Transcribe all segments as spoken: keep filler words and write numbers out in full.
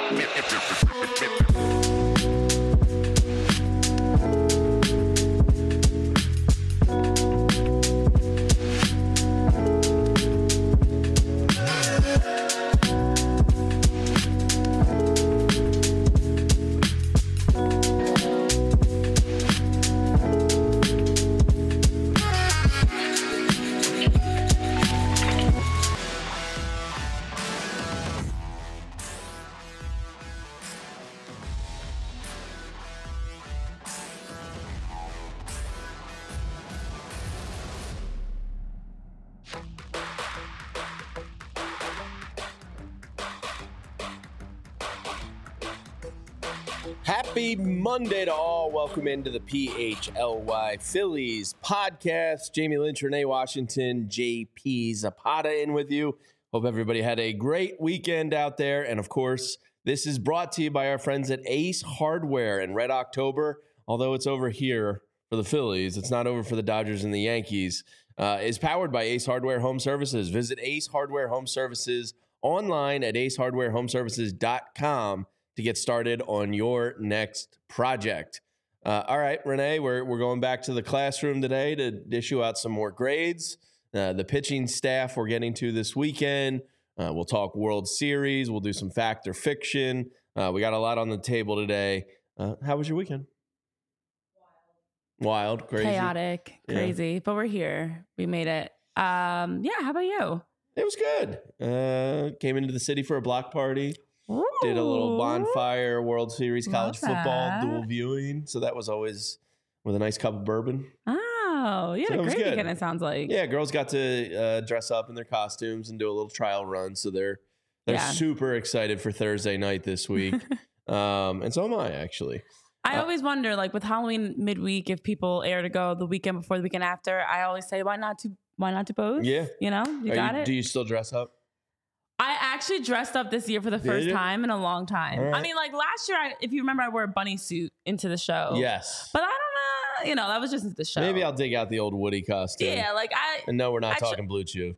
Happy Monday to all. Welcome into the P H L Y Phillies podcast. Jamie Lynch, Renee Washington, J P Zapata in with you. Hope everybody had a great weekend out there. And of course, this is brought to you by our friends at Ace Hardware and Red October. Although it's over here for the Phillies, it's not over for the Dodgers and the Yankees. Uh, is powered by Ace Hardware Home Services. Visit Ace Hardware Home Services online at ace hardware home services dot com to get started on your next project. Uh, all right, Renee, we're we're going back to the classroom today to issue out some more grades. Uh, the pitching staff we're getting to this weekend. Uh, we'll talk World Series. We'll do some fact or fiction. Uh, we got a lot on the table today. Uh, how was your weekend? Wild, crazy, chaotic, crazy, yeah. But we're here. We made it. Um, yeah. How about you? It was good. Uh, came into the city for a block party. Ooh. Did a little bonfire, World Series, college Love football, that. dual viewing. So that was always with a nice cup of bourbon. Oh, you had So a it was great good. weekend, it sounds like. Yeah, girls got to uh, dress up in their costumes and do a little trial run. So they're they're Yeah. super excited for Thursday night this week. um, and so am I, actually. I Uh, always wonder, like with Halloween midweek, if people air to go the weekend before, the weekend after. I always say, why not to why not to both? Yeah. You know, you Are got you, it. Do you still dress up? I actually dressed up this year for the Did first you? time in a long time. All right. I mean, like last year, I, if you remember, I wore a bunny suit into the show. Yes. But I don't know. You know, that was just the show. Maybe I'll dig out the old Woody costume. Yeah, like I. And no, we're not Actually- talking Blue Chew.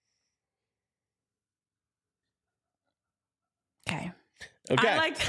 Okay. Okay. I like.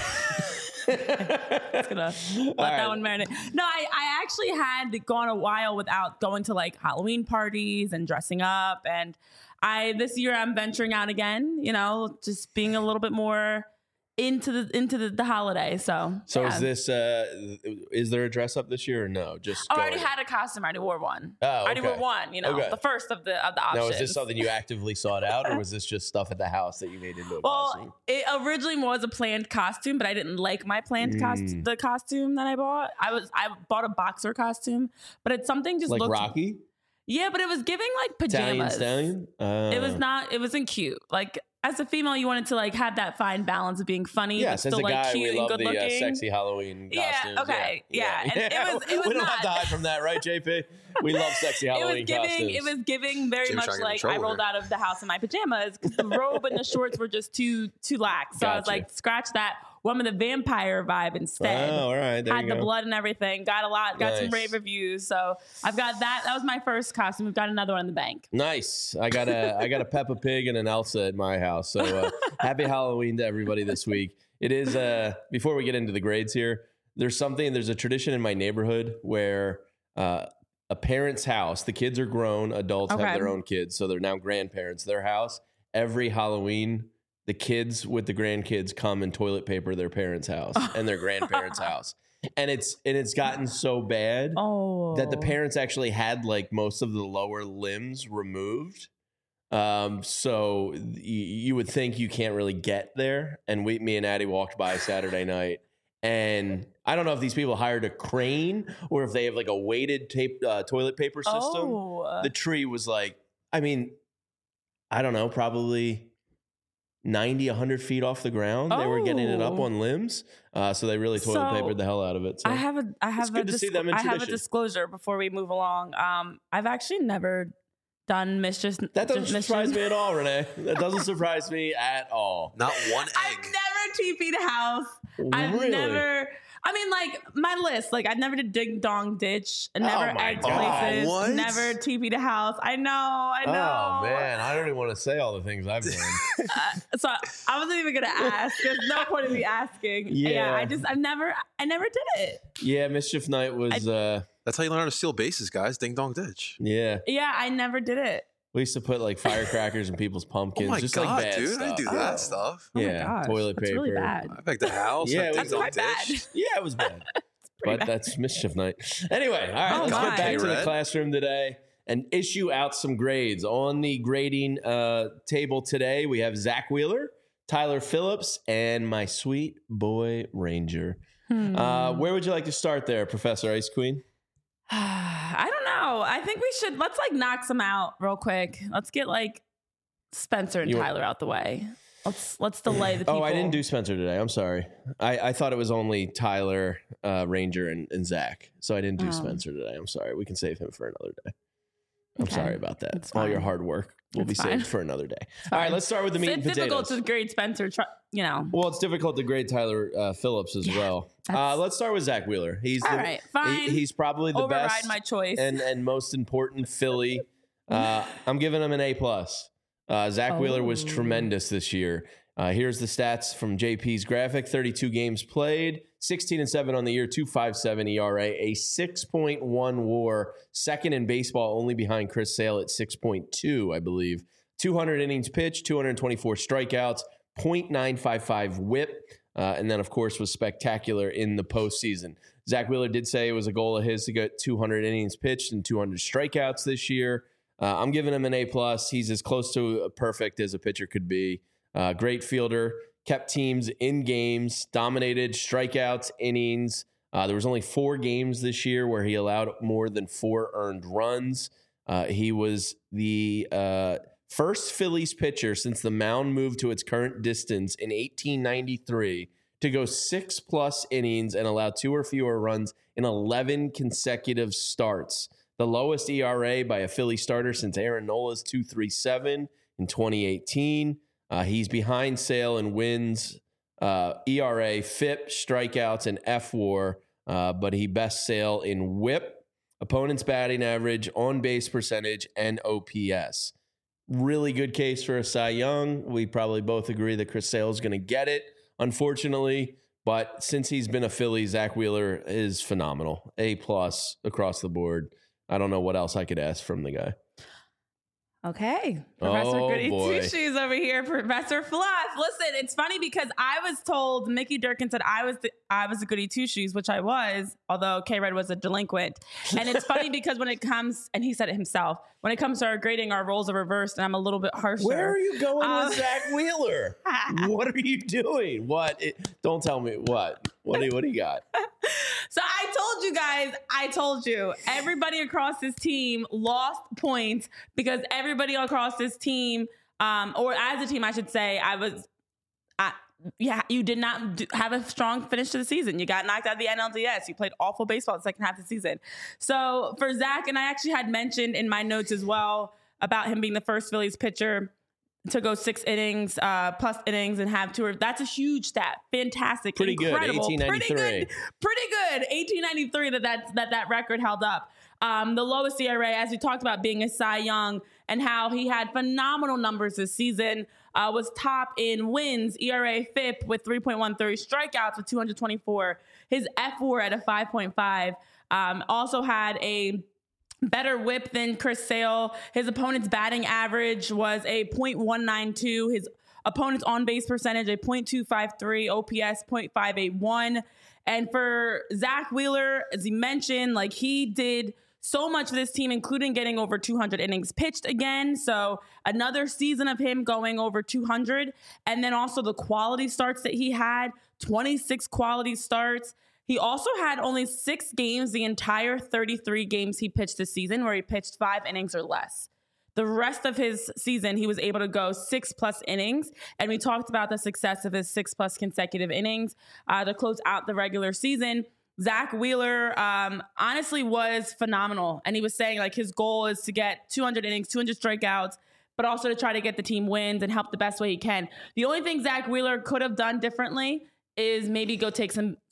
Just gonna let right. that one marinate. No, I, I actually had gone a while without going to like Halloween parties and dressing up. And I this year I'm venturing out again, you know, just being a little bit more into the into the, the holiday. So So yeah. is this uh is there a dress up this year or no? Just Oh, I go already in. had a costume. I already wore one. Oh, I already okay. wore one, you know, Okay. the first of the of the options. Now, is this something you actively sought out, or was this just stuff at the house that you made into a Well, costume? it originally was a planned costume, but I didn't like my planned Mm. costume. The costume that I bought, I was I bought a boxer costume, but it's something just Like looked Rocky? Yeah, but it was giving like Italian pajamas. Stallion? Uh, It was not. It wasn't cute. Like as a female, you wanted to like have that fine balance of being funny, Yes, but as still a like guy, cute we and love good the uh, looking. sexy Halloween Yeah, costumes. okay, yeah, and it was- it was we don't not- have to hide from that, right, J P? We love sexy It was Halloween giving. costumes. It was giving very Jim's much trying to get in like I trouble rolled here. out of the house in my pajamas because the robe and the shorts were just too too lax. So I was Gotcha. like, scratch that. One with a vampire vibe instead. Oh, all right. There Had you the go. blood and everything. Got a lot. Got some Nice. rave reviews. So I've got that. That was my first costume. We've got another one in the bank. Nice. I got a I got a Peppa Pig and an Elsa at my house. So uh, happy Halloween to everybody this week. It is uh before we get into the grades here, there's something there's a tradition in my neighborhood where uh a parent's house, the kids are grown, adults Okay. have their own kids, so they're now grandparents. Their house, every Halloween, the kids with the grandkids come and toilet paper their parents' house and their grandparents' house. And it's and it's gotten so bad Oh, that the parents actually had like most of the lower limbs removed. Um, so y- you would think you can't really get there. And we, me and Addie walked by Saturday night, and I don't know if these people hired a crane or if they have like a weighted tape uh, toilet paper system. Oh. The tree was like, I mean, I don't know, probably ninety, one hundred feet off the ground. They were getting it up Oh. on limbs. Uh, so they really toilet So, papered the hell out of it. So I have a I have good a to see disclo- them in I have a tradition. disclosure before we move along. Um, I've actually never done mischief. that doesn't mischief- surprise me at all, Renee. That doesn't surprise me at all. Not one I've egg. never T P'd a house. I've Really? never. I mean, like my list, like I never did ding dong ditch, I never Oh my egged God. places, What? never T P to house. I know, I know. Oh man, I don't even want to say all the things I've done. Uh, so I wasn't even gonna ask. There's no point in me asking. Yeah. Yeah, I just, I never, I never did it. Yeah, Mischief Night was. uh That's how you learn how to steal bases, guys. Ding dong ditch. Yeah, Yeah, I never did it. we used to put like firecrackers in people's pumpkins. Oh my just god, like bad dude! stuff. I didn't do Oh. that stuff. Oh my Yeah, gosh, toilet that's paper. really bad. I back the house. Yeah, Yeah, it ding was dong quite bad. ditch. Yeah, it was bad. Pretty But bad. that's Mischief Night. Anyway, all right, Oh, let's my. get back to the Red. classroom today and issue out some grades. On the grading uh, table today, we have Zach Wheeler, Tyler Phillips, and my sweet boy Ranger. Hmm. Uh, where would you like to start there, Professor Ice Queen? I don't know. I think we should, let's like knock some out real quick. Let's get like Spencer and You want- Tyler out the way. Let's, let's delay the people. Oh, I didn't do Spencer today. I'm sorry. I, I thought it was only Tyler, uh, Ranger, and, and Zach. So I didn't do Oh. Spencer today. I'm sorry. We can save him for another day. I'm Okay. sorry about that. It's All your fine. hard work will It's be fine. saved for another day. All right, let's start with the meat It's and difficult potatoes. to grade Spencer, tr- you know. Well, it's difficult to grade Tyler uh, Phillips as Yeah, well. Uh, that's- let's start with Zach Wheeler. He's All the, right, he- fine. he's probably the Override best my choice. and and most important Philly. Uh, I'm giving him an A plus. Uh, Zach Wheeler was Oh. tremendous this year. Uh, here's the stats from J P's graphic: thirty-two games played, sixteen and seven on the year, two point five seven E R A, a six point one WAR, second in baseball, only behind Chris Sale at six point two, I believe. two hundred innings pitched, two hundred twenty-four strikeouts, point nine five five WHIP, uh, and then of course was spectacular in the postseason. Zach Wheeler did say it was a goal of his to get two hundred innings pitched and two hundred strikeouts this year. Uh, I'm giving him an A plus. He's as close to perfect as a pitcher could be. Uh, great fielder, kept teams in games, dominated strikeouts, innings. Uh, there was only four games this year where he allowed more than four earned runs. Uh, he was the uh, first Phillies pitcher since the mound moved to its current distance in eighteen ninety-three to go six plus innings and allow two or fewer runs in eleven consecutive starts. The lowest E R A by a Philly starter since Aaron Nola's two point three seven in twenty eighteen. Uh, he's behind Sale in wins, uh, E R A, F I P, strikeouts, and F WAR, uh, but he best Sale in WHIP, opponent's batting average, on-base percentage, and O P S. Really good case for a Cy Young. We probably both agree that Chris Sale is going to get it, unfortunately. But since he's been a Philly, Zach Wheeler is phenomenal. A plus across the board. I don't know what else I could ask from the guy. Okay. Professor Oh, Goody boy. Two Shoes over here, Professor Fluff. Listen, it's funny because I was told, Mickey Durkin said I was the, I was a Goody Two Shoes, which I was, although K-Red was a delinquent. And it's funny because when it comes, and he said it himself, when it comes to our grading, our roles are reversed and I'm a little bit harsher. Where are you going Um, with Zach Wheeler? What are you doing? What? It, don't tell me what. What do you, what do you got? So I told you guys, I told you, everybody across this team lost points because everybody across this team, um, or as a team, I should say, I was, I, yeah, you did not do, have a strong finish to the season. You got knocked out of the N L D S. You played awful baseball the second half of the season. So for Zach, and I actually had mentioned in my notes as well about him being the first Phillies pitcher to go six innings, uh, plus innings and have two. Or, that's a huge stat. Fantastic. Pretty good. Incredible. eighteen ninety-three. Pretty good. Pretty good. eighteen ninety-three that that, that that record held up. Um, the lowest E R A, as we talked about, being a Cy Young and how he had phenomenal numbers this season, uh, was top in wins, E R A, F I P with three point one three, strikeouts with two hundred twenty-four, his F WAR at a five point five. Um, also had a better whip than Chris Sale. His opponent's batting average was a point one nine two. His opponent's on-base percentage, a point two five three. O P S, point five eight one. And for Zach Wheeler, as he mentioned, like he did so much for this team, including getting over two hundred innings pitched again. So another season of him going over two hundred. And then also the quality starts that he had, twenty-six quality starts. He also had only six games the entire thirty-three games he pitched this season where he pitched five innings or less. The rest of his season, he was able to go six plus innings. And we talked about the success of his six plus consecutive innings uh, to close out the regular season. Zach Wheeler um, honestly was phenomenal. And he was saying like his goal is to get two hundred innings, two hundred strikeouts, but also to try to get the team wins and help the best way he can. The only thing Zach Wheeler could have done differently is maybe go take some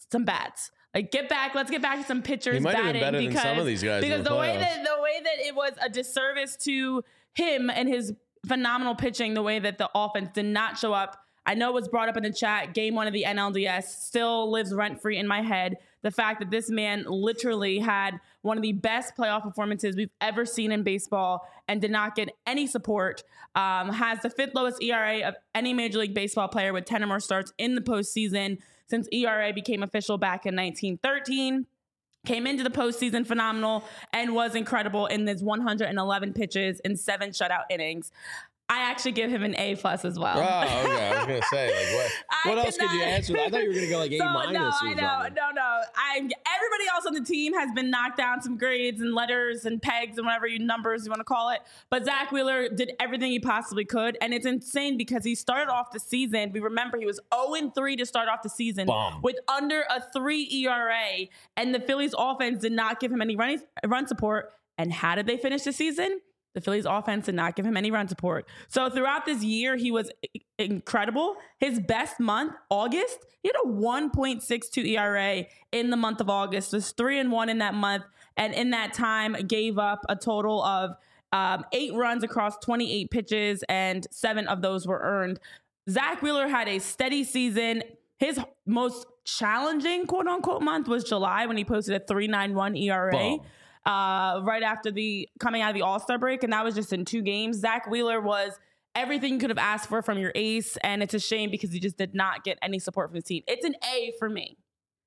some bats. Like, get back. Let's get back to some pitchers He might have batting been better because, than some of these guys in because the the way playoffs. that the way that it was a disservice to him and his phenomenal pitching, the way that the offense did not show up. I know it was brought up in the chat. Game one of the N L D S still lives rent free in my head. The fact that this man literally had one of the best playoff performances we've ever seen in baseball and did not get any support, um, has the fifth lowest E R A of any Major League Baseball player with ten or more starts in the postseason since E R A became official back in nineteen thirteen. Came into the postseason phenomenal and was incredible in his one hundred eleven pitches in seven shutout innings. I actually give him an A plus as well. Oh, okay. I was gonna say, like, what? I What else could you cannot- answer? I thought you were gonna go like A So, minus. no, or I know, something. no, no. I everybody else on the team has been knocked down some grades and letters and pegs and whatever you numbers you want to call it. But Zach Wheeler did everything he possibly could, and it's insane because he started off the season. We remember he was zero and three to start off the season Bomb. with under a three E R A, and the Phillies offense did not give him any run run support. And how did they finish the season? The Phillies offense did not give him any run support. So throughout this year, he was incredible. His best month, August, he had a one point six two E R A in the month of August. Was three and one in that month. And in that time, gave up a total of um, eight runs across twenty-eight pitches, and seven of those were earned. Zach Wheeler had a steady season. His most challenging, quote unquote, month was July when he posted a three point nine one E R A. Boom. Uh, right after the coming out of the All-Star break, and that was just in two games. Zach Wheeler was everything you could have asked for from your ace, and it's a shame because he just did not get any support from the team. It's an A for me.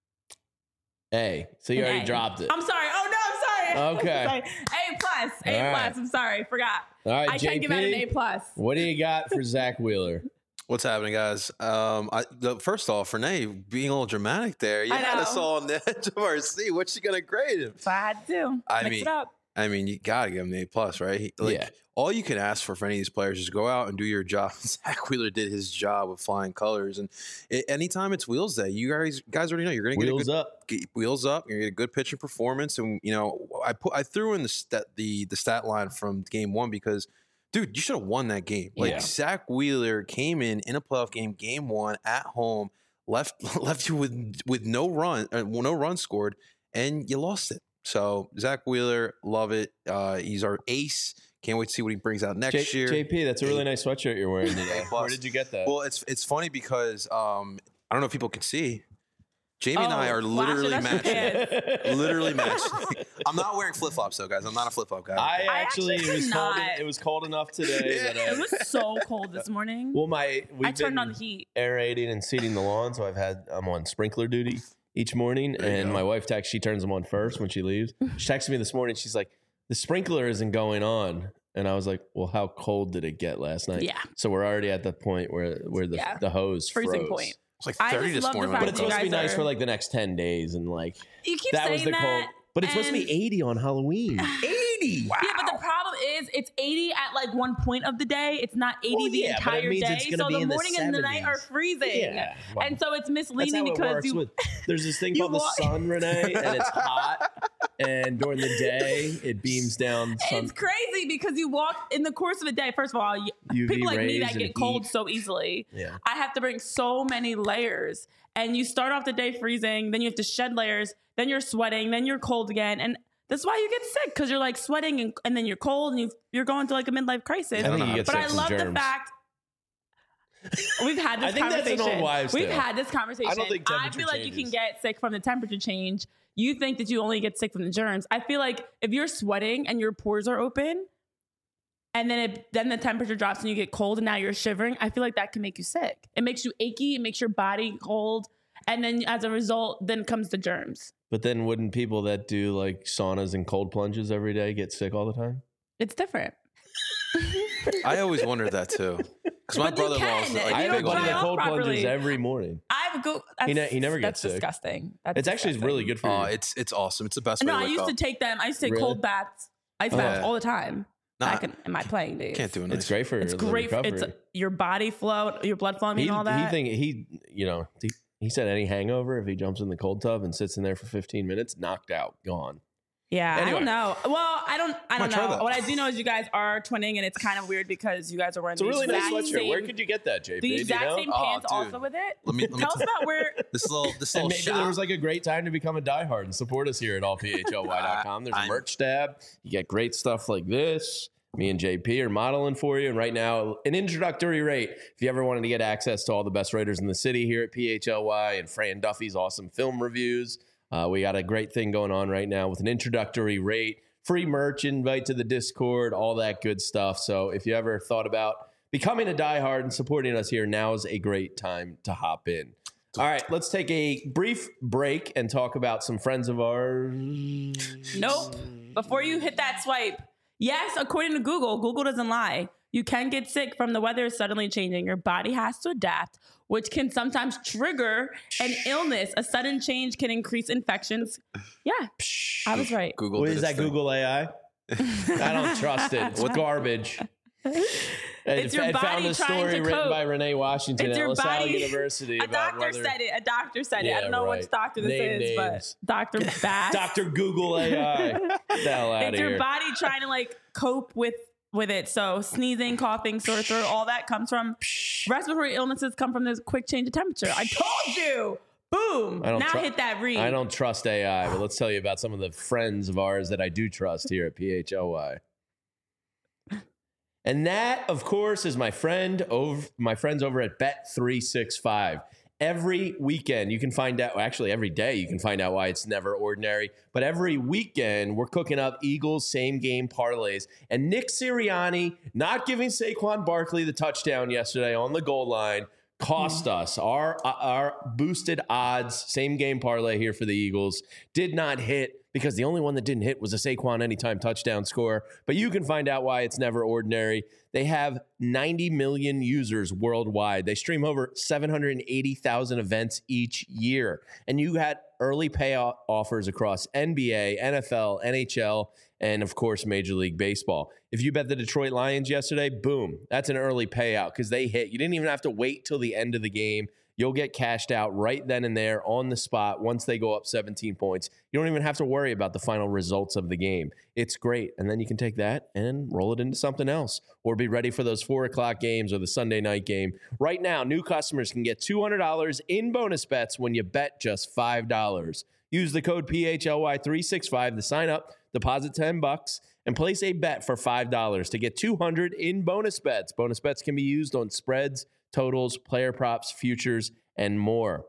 A. So you An already A. dropped it. I'm sorry. Oh no, I'm sorry. Okay. Sorry. A plus. A All plus. right. I'm sorry. Forgot. All right, I J can't give out an P, A plus. What do you got for Zach Wheeler? What's happening, guys? Um, I, the, first off, Renee being a little dramatic there. You I had know. us all on the edge of our seat. What's she gonna grade him? So I had to do. I Mix mean, it up. I mean, you gotta give him the A plus, right? He, like, Yeah. all you can ask for for any of these players is go out and do your job. Zach Wheeler did his job with flying colors, and it, anytime it's Wheels Day, you guys guys already know you're gonna get Wheels a good, up. get wheels up. You're gonna get a good pitching performance, and you know I put I threw in the stat the the stat line from game one because. Dude, you should have won that game. Like Yeah. Zach Wheeler came in in a playoff game, game one at home, left left you with with no run, uh, no run scored, and you lost it. So Zach Wheeler, love it. Uh, he's our ace. Can't wait to see what he brings out next J- year. J P, that's a really nice sweatshirt you're wearing today. plus. Where did you get that? Well, it's it's funny because um, I don't know if people can see. Jamie and I Oh, are flash it, literally that's your matching. pants. Literally matching. I'm not wearing flip flops though, guys. I'm not a flip flop guy. I I actually, actually it was could cold. not. It was cold enough today that I, It was so cold this morning. well, my we've I turned been on the heat. aerating and seeding the lawn, so I've had I'm on sprinkler duty each morning, There you and go. my wife texts. She turns them on first when she leaves. She texted me this morning. She's like, "The sprinkler isn't going on," and I was like, "Well, how cold did it get last night?" Yeah. So we're already at the point where where the Yeah. the hose Freezing froze. point. It's like I thirty just this love the morning. fact But when it's I you woke supposed to be guys nice are- for like the next ten days, and like You keep that saying was the that, cold. But it's supposed to be and- eighty on Halloween. eighty. Wow. Yeah, but the problem is it's eighty at like one point of the day. It's not eighty Well, the yeah, but it entire means day. it's gonna So be the in the morning and the night are seventies. freezing. Yeah, well, and so it's That's misleading how it because works you with, there's this thing you called walk- the sun, Renee, and it's hot. And during the day, it beams down sun. it's crazy because you walk in the course of a day. First of all, you, U V people like me rays that and get cold heat. so easily. Yeah. I have to bring so many layers. And you start off the day freezing, then you have to shed layers, then you're sweating, then you're cold again. And that's why you get sick because you're like sweating and, and then you're cold and you you're going through like a midlife crisis. I think you get But sick I from love the germs. fact we've had this I think that's an conversation. old wives' We've tale. had this conversation. I don't think I temperature feel like you changes. can get sick from the temperature change. You think that you only get sick from the germs. I feel like if you're sweating and your pores are open, and then it, then the temperature drops and you get cold and now you're shivering, I feel like that can make you sick. It makes you achy. It makes your body cold. And then as a result, then comes the germs. But then wouldn't people that do like saunas and cold plunges every day get sick all the time? It's different. I always wondered that too. Because my But you brother-in-law was can. like, If I you have a don't buddy dry that off cold plunges properly. every morning. I would go. That's, He ne- he never gets that's sick. disgusting. That's It's actually disgusting. really good for you. oh, it's it's awesome. It's the best No, way I to wake used up. to take them. I used to take Really? cold baths, ice Oh, baths yeah. all the time. Nah, Back in, in my playing days. can't do it. It's great for It's the great. For, recovery. it's your body flow, your blood flow, I mean, he, all that. he think he you know he, he said any hangover if he jumps in the cold tub and sits in there for fifteen minutes, knocked out, gone. Yeah, Anyway. I don't know. Well, I don't. I don't Might try know. that. What I do know is you guys are twinning, and it's kind of weird because you guys are wearing It's a the really nice exact sweatshirt. same, Where could you get that, J P? the Do you exact know? same Oh, pants dude. also with it. Let me, let me Tell us t- about where. this little this And little maybe shop. there was like a great time to become a diehard and support us here at all P H L Y dot com. There's a I'm- merch tab. You get great stuff like this. Me and J P are modeling for you. And right now, an introductory rate. If you ever wanted to get access to all the best writers in the city here at P H L Y and Fran Duffy's awesome film reviews, uh, we got a great thing going on right now with an introductory rate, free merch, invite to the Discord, all that good stuff. So if you ever thought about becoming a diehard and supporting us here, now is a great time to hop in. All right, let's take a brief break and talk about some friends of ours. Nope. Before you hit that swipe, yes, according to Google, Google doesn't lie. You can get sick from the weather suddenly changing. Your body has to adapt, which can sometimes trigger an illness. A sudden change can increase infections. Yeah, I was right. Google What did is its that, thing. Google A I? I don't trust it. It's garbage. It's your I found body a trying story to written cope. by Renee Washington It's at your LaSalle body- University. A about doctor whether, said it. A doctor said it. Yeah, I don't know right. which doctor this Name is, names. but Doctor Bass. Doctor Google A I. Get the hell out It's of your here. body trying to like cope with with it. So sneezing, coughing, sore throat, all that comes from respiratory illnesses. Come from this quick change of temperature. I told you. Boom. I don't Now tru- hit that read. I don't trust A I, but let's tell you about some of the friends of ours that I do trust here at P H L Y. And that, of course, is my friend over my friends over at Bet three sixty-five. Every weekend, you can find out, well, actually every day, you can find out why it's never ordinary. But every weekend, we're cooking up Eagles same game parlays. And Nick Sirianni not giving Saquon Barkley the touchdown yesterday on the goal line cost us our our boosted odds same game parlay here for the Eagles did not hit because the only one that didn't hit was a Saquon anytime touchdown score. But you can find out why it's never ordinary. They have ninety million users worldwide. They stream over seven hundred eighty thousand events each year. And you had early payout offers across N B A, N F L, N H L, and of course, Major League Baseball. If you bet the Detroit Lions yesterday, boom, that's an early payout because they hit. You didn't even have to wait till the end of the game. You'll get cashed out right then and there on the spot once they go up seventeen points. You don't even have to worry about the final results of the game. It's great. And then you can take that and roll it into something else or be ready for those four o'clock games or the Sunday night game. Right now, new customers can get two hundred dollars in bonus bets when you bet just five dollars. Use the code P H L Y three sixty-five to sign up, deposit ten bucks, and place a bet for five dollars to get two hundred dollars in bonus bets. Bonus bets can be used on spreads, totals, player props, futures, and more.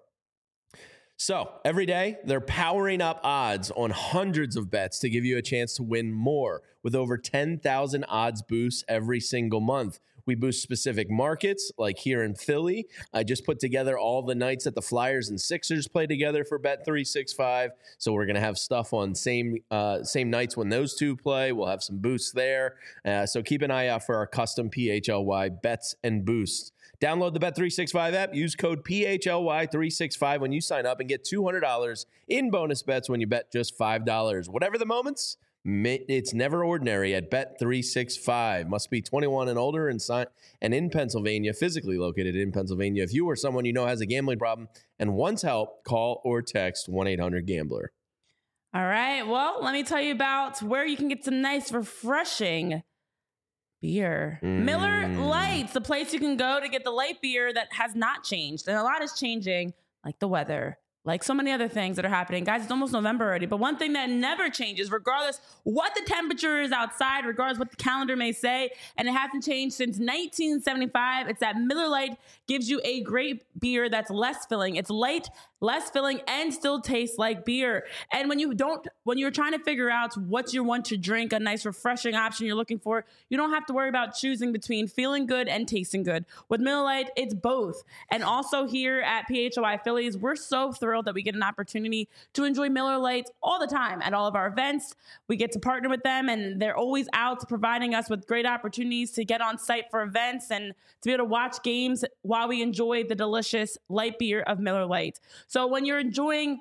So every day, they're powering up odds on hundreds of bets to give you a chance to win more with over ten thousand odds boosts every single month. We boost specific markets, like here in Philly. I just put together all the nights that the Flyers and Sixers play together for Bet three sixty-five. So we're going to have stuff on same uh, same nights when those two play. We'll have some boosts there. Uh, so keep an eye out for our custom P H L Y bets and boosts. Download the Bet three sixty-five app. Use code P H L Y three sixty-five when you sign up and get two hundred dollars in bonus bets when you bet just five dollars. Whatever the moments, it's never ordinary at Bet three sixty-five. Must be twenty-one and older and, sign- and in Pennsylvania, physically located in Pennsylvania. If you or someone you know has a gambling problem and wants help, call or text one eight hundred gambler. All right. Well, let me tell you about where you can get some nice, refreshing beer. Mm. Miller Lights, the place you can go to get the light beer that has not changed. And a lot is changing, like the weather, like so many other things that are happening. Guys, it's almost November already. But one thing that never changes, regardless what the temperature is outside, regardless what the calendar may say, and it hasn't changed since nineteen seventy-five, it's that Miller Lite gives you a great beer that's less filling. It's light, less filling, and still tastes like beer. And when you don't, when you're trying to figure out what you want to drink, a nice refreshing option you're looking for, you don't have to worry about choosing between feeling good and tasting good. With Miller Lite, it's both. And also here at P H L Y Phillies, we're so thrilled that we get an opportunity to enjoy Miller Lite all the time at all of our events. We get to partner with them, and they're always out providing us with great opportunities to get on site for events and to be able to watch games while we enjoy the delicious light beer of Miller Lite. So when you're enjoying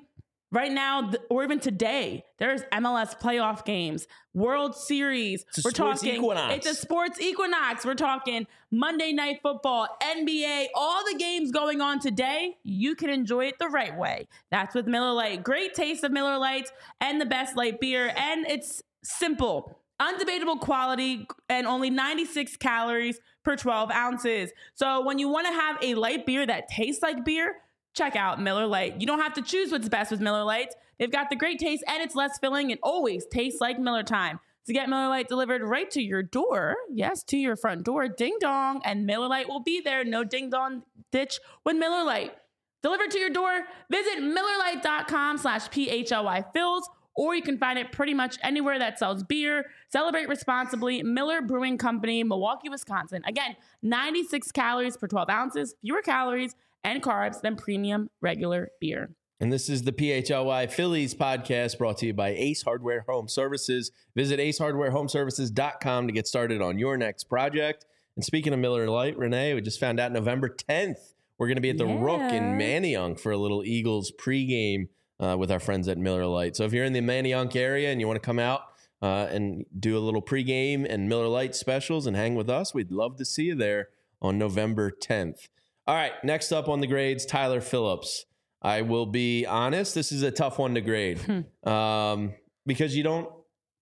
Right now, th- or even today, there's M L S playoff games, World Series. It's a We're sports talking. equinox. It's a sports equinox. We're talking Monday Night Football, N B A, all the games going on today. You can enjoy it the right way. That's with Miller Lite. Great taste of Miller Lites and the best light beer, and it's simple. Undebatable quality and only ninety-six calories per twelve ounces. So when you want to have a light beer that tastes like beer, check out Miller Lite. You don't have to choose what's best with Miller Lites. They've got the great taste and it's less filling and always tastes like Miller time. To get Miller Lite delivered right to your door, yes, to your front door, ding dong, and Miller Lite will be there. No ding dong ditch with Miller Lite. Delivered to your door, visit MillerLite.com slash P-H-L-Y Fills, or you can find it pretty much anywhere that sells beer. Celebrate responsibly. Miller Brewing Company, Milwaukee, Wisconsin. Again, ninety-six calories per twelve ounces, fewer calories and carbs than premium regular beer. And this is the P H L Y Phillies podcast brought to you by Ace Hardware Home Services. Visit ace hardware home services dot com to get started on your next project. And speaking of Miller Lite, Renee, we just found out November tenth, we're going to be at the Yeah. Rook in Manayunk for a little Eagles pregame uh, with our friends at Miller Lite. So if you're in the Manayunk area and you want to come out uh, and do a little pregame and Miller Lite specials and hang with us, we'd love to see you there on November tenth. All right, next up on the grades, Tyler Phillips. I will be honest, this is a tough one to grade um, because you don't,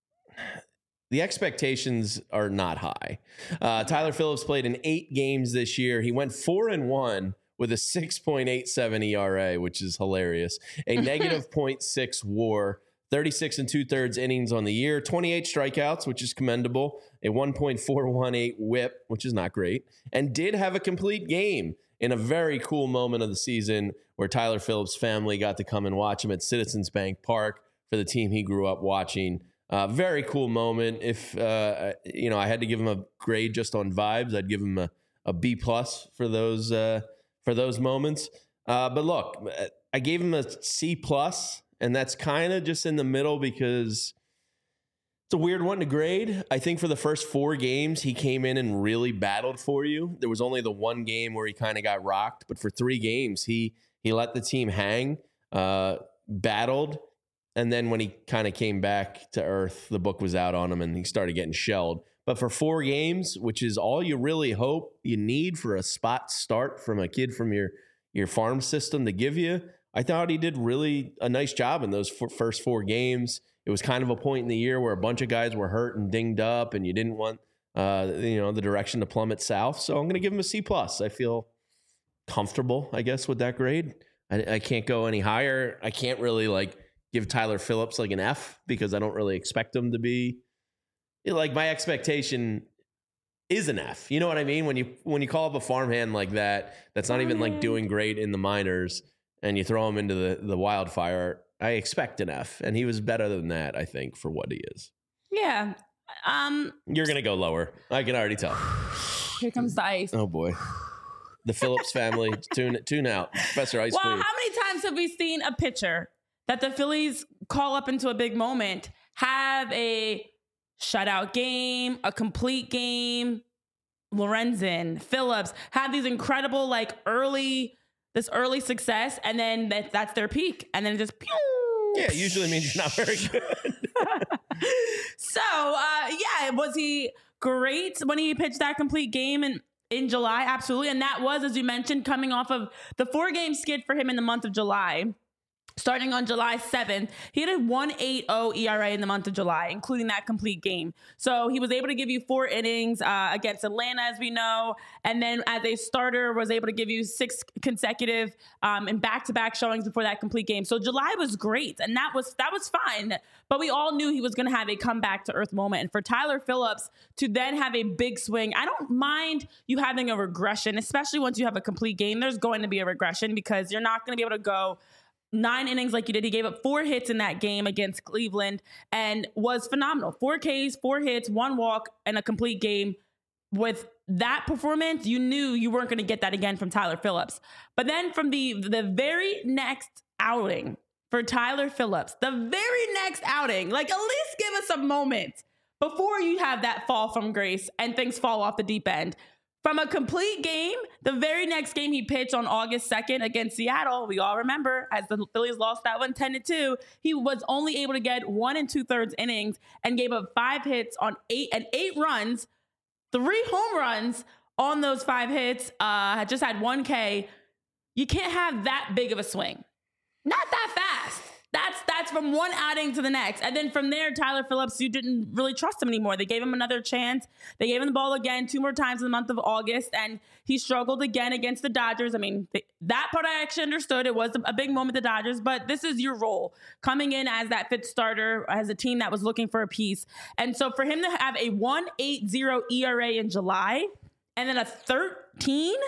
the expectations are not high. Uh, Tyler Phillips played in eight games this year. He went four and one with a six point eight seven E R A, which is hilarious. A negative zero point six WAR, thirty-six and two thirds innings on the year, twenty-eight strikeouts, which is commendable, a one point four one eight whip, which is not great, and did have a complete game in a very cool moment of the season where Tyler Phillips' family got to come and watch him at Citizens Bank Park for the team he grew up watching. Uh, very cool moment. If, uh, you know, I had to give him a grade just on vibes, I'd give him a, a B plus for those, uh, for those moments. Uh, but look, I gave him a C plus, and that's kind of just in the middle because it's a weird one to grade. I think for the first four games, he came in and really battled for you. There was only the one game where he kind of got rocked, but for three games, he he let the team hang, uh, battled, and then when he kind of came back to earth, the book was out on him and he started getting shelled. But for four games, which is all you really hope you need for a spot start from a kid from your, your farm system to give you, I thought he did really a nice job in those f- first four games. It was kind of a point in the year where a bunch of guys were hurt and dinged up, and you didn't want, uh, you know, the direction to plummet south. So I'm going to give him a C plus. I feel comfortable, I guess, with that grade. I, I can't go any higher. I can't really like give Tyler Phillips like an F because I don't really expect him to be. Like my expectation is an F. You know what I mean? When you when you call up a farmhand like that, that's not even like doing great in the minors, and you throw him into the the wildfire. I expect an F, and he was better than that, I think, for what he is. Yeah. Um, You're going to go lower. I can already tell. here comes the ice. Oh, boy. The Phillips family, tune tune out. Professor Ice Well, Queen. how many times have we seen a pitcher that the Phillies call up into a big moment, have a shutout game, a complete game? Lorenzen, Phillips, have these incredible, like, early... this early success, and then that, that's their peak, and then it just pew. Yeah, it usually means you're not very good. So, uh, yeah, was he great when he pitched that complete game in, in July? Absolutely. And that was, as you mentioned, coming off of the four-game skid for him in the month of July. Starting on July seventh, he had a one point eight oh E R A in the month of July, including that complete game. So he was able to give you four innings uh, against Atlanta, as we know. And then as a starter, was able to give you six consecutive um, and back-to-back showings before that complete game. So July was great, and that was that was fine. But we all knew he was going to have a comeback to earth moment. And for Tyler Phillips to then have a big swing, I don't mind you having a regression, especially once you have a complete game. There's going to be a regression because you're not going to be able to go nine innings like you did. He gave up four hits in that game against Cleveland and was phenomenal. Four Ks, four hits, one walk, and a complete game. With that performance, you knew you weren't going to get that again from Tyler Phillips. But then from the, the very next outing for Tyler Phillips, the very next outing, like at least give us a moment before you have that fall from grace and things fall off the deep end. from a complete game, the very next game he pitched on August second against Seattle, we all remember, as the Phillies lost that one ten to two, he was only able to get one and two thirds innings and gave up five hits on eight and eight runs, three home runs on those five hits, uh, just had one K. You can't have that big of a swing. Not that fast. That's that's from one outing to the next. And then from there, Tyler Phillips, you didn't really trust him anymore. They gave him another chance. They gave him the ball again two more times in the month of August, and he struggled again against the Dodgers. I mean, th- that part I actually understood. It was a big moment, the Dodgers, but this is your role. Coming in as that fifth starter, as a team that was looking for a piece. And so for him to have a one point eight oh E R A in July, and then a thirteen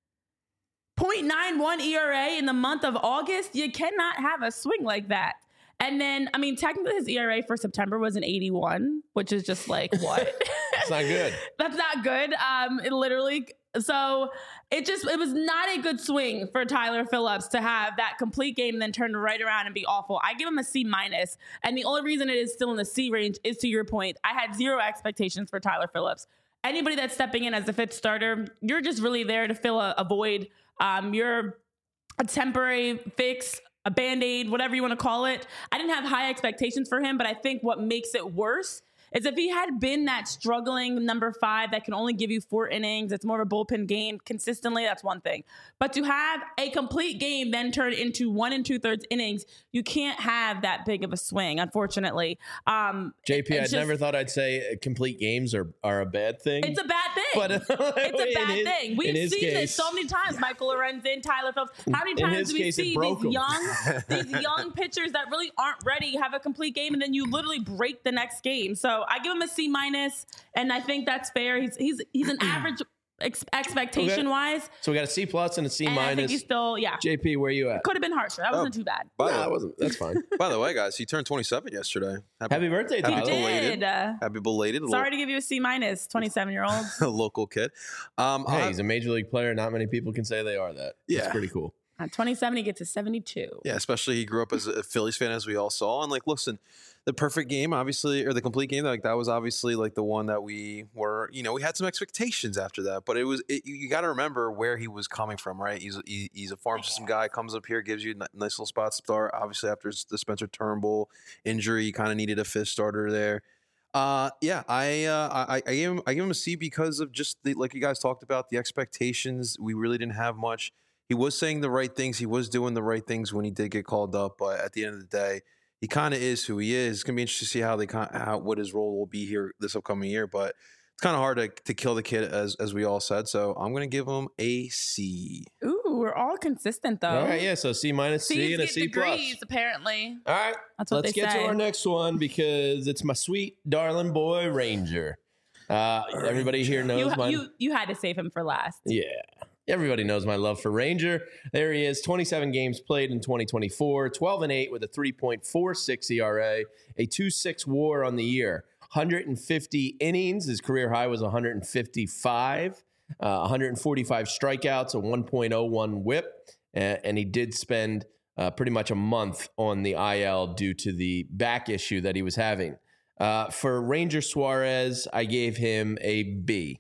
point nine one E R A in the month of August, you cannot have a swing like that. And then, I mean, technically his E R A for September was an eighty-one, which is just like, what? It's not good. That's not good. Um, it literally, so it just, it was not a good swing for Tyler Phillips to have that complete game and then turn right around and be awful. I give him a C minus. And the only reason it is still in the C range is, to your point, I had zero expectations for Tyler Phillips. Anybody that's stepping in as the fifth starter, you're just really there to fill a, a void. Um, you're a temporary fix, a Band-Aid, whatever you want to call it. I didn't have high expectations for him, but I think what makes it worse is if he had been that struggling number five that can only give you four innings, it's more of a bullpen game consistently, that's one thing. But to have a complete game then turn into one and two thirds innings, you can't have that big of a swing, unfortunately. Um, J P, I just, never thought I'd say complete games are, are a bad thing. It's a bad thing. But it's a bad his, thing. We've seen case, this so many times. Michael Lorenzen, Tyler Phillips. How many times do we case, see these young, these young pitchers that really aren't ready have a complete game and then you literally break the next game? So I give him a C minus, and I think that's fair. He's he's he's an average ex- expectation okay. wise. So we got a C plus and a C and minus. I think he's still yeah. J P, where you at? Could have been harsher. That wasn't oh, too bad. By no, that wasn't. That's fine. By the way, guys, he turned twenty-seven yesterday. Happy, happy birthday, happy Tyler. Belated. Did. Uh, happy belated. Sorry lo- to give you a C minus, twenty-seven year old local kid. Um, hey, I, he's a major league player. Not many people can say they are that. Yeah, that's pretty cool. At twenty-seven, he gets a seventy-two. Yeah, especially he grew up as a Phillies fan, as we all saw. And, like, listen, the perfect game, obviously, or the complete game, like, that was obviously, like, the one that we were, you know, we had some expectations after that. But it was, it, you, you got to remember where he was coming from, right? He's he, he's a farm system guy, comes up here, gives you a nice little spot to start. Obviously, after the Spencer Turnbull injury, you kind of needed a fifth starter there. Uh, yeah, I, uh, I, I gave him, I gave him a C because of just the, like you guys talked about, the expectations. We really didn't have much. He was saying the right things. He was doing the right things when he did get called up. But at the end of the day, he kind of is who he is. It's gonna be interesting to see how they how what his role will be here this upcoming year. But it's kind of hard to to kill the kid, as as we all said. So I'm gonna give him a C. Ooh, we're all consistent though. All right, yeah. So C minus, C and a C degrees, plus. Apparently. All right, that's what let's they get say. to our next one because it's my sweet darling boy Ranger. Uh, everybody here knows you, my you you had to save him for last. Yeah. Everybody knows my love for Ranger. There he is, twenty-seven games played in twenty twenty-four, twelve and eight with a three point four six E R A, a two point six WAR on the year, one hundred fifty innings. His career high was one hundred fifty-five, uh, one hundred forty-five strikeouts, a one point oh one whip, and, and he did spend uh, pretty much a month on the I L due to the back issue that he was having. Uh, for Ranger Suarez, I gave him a B.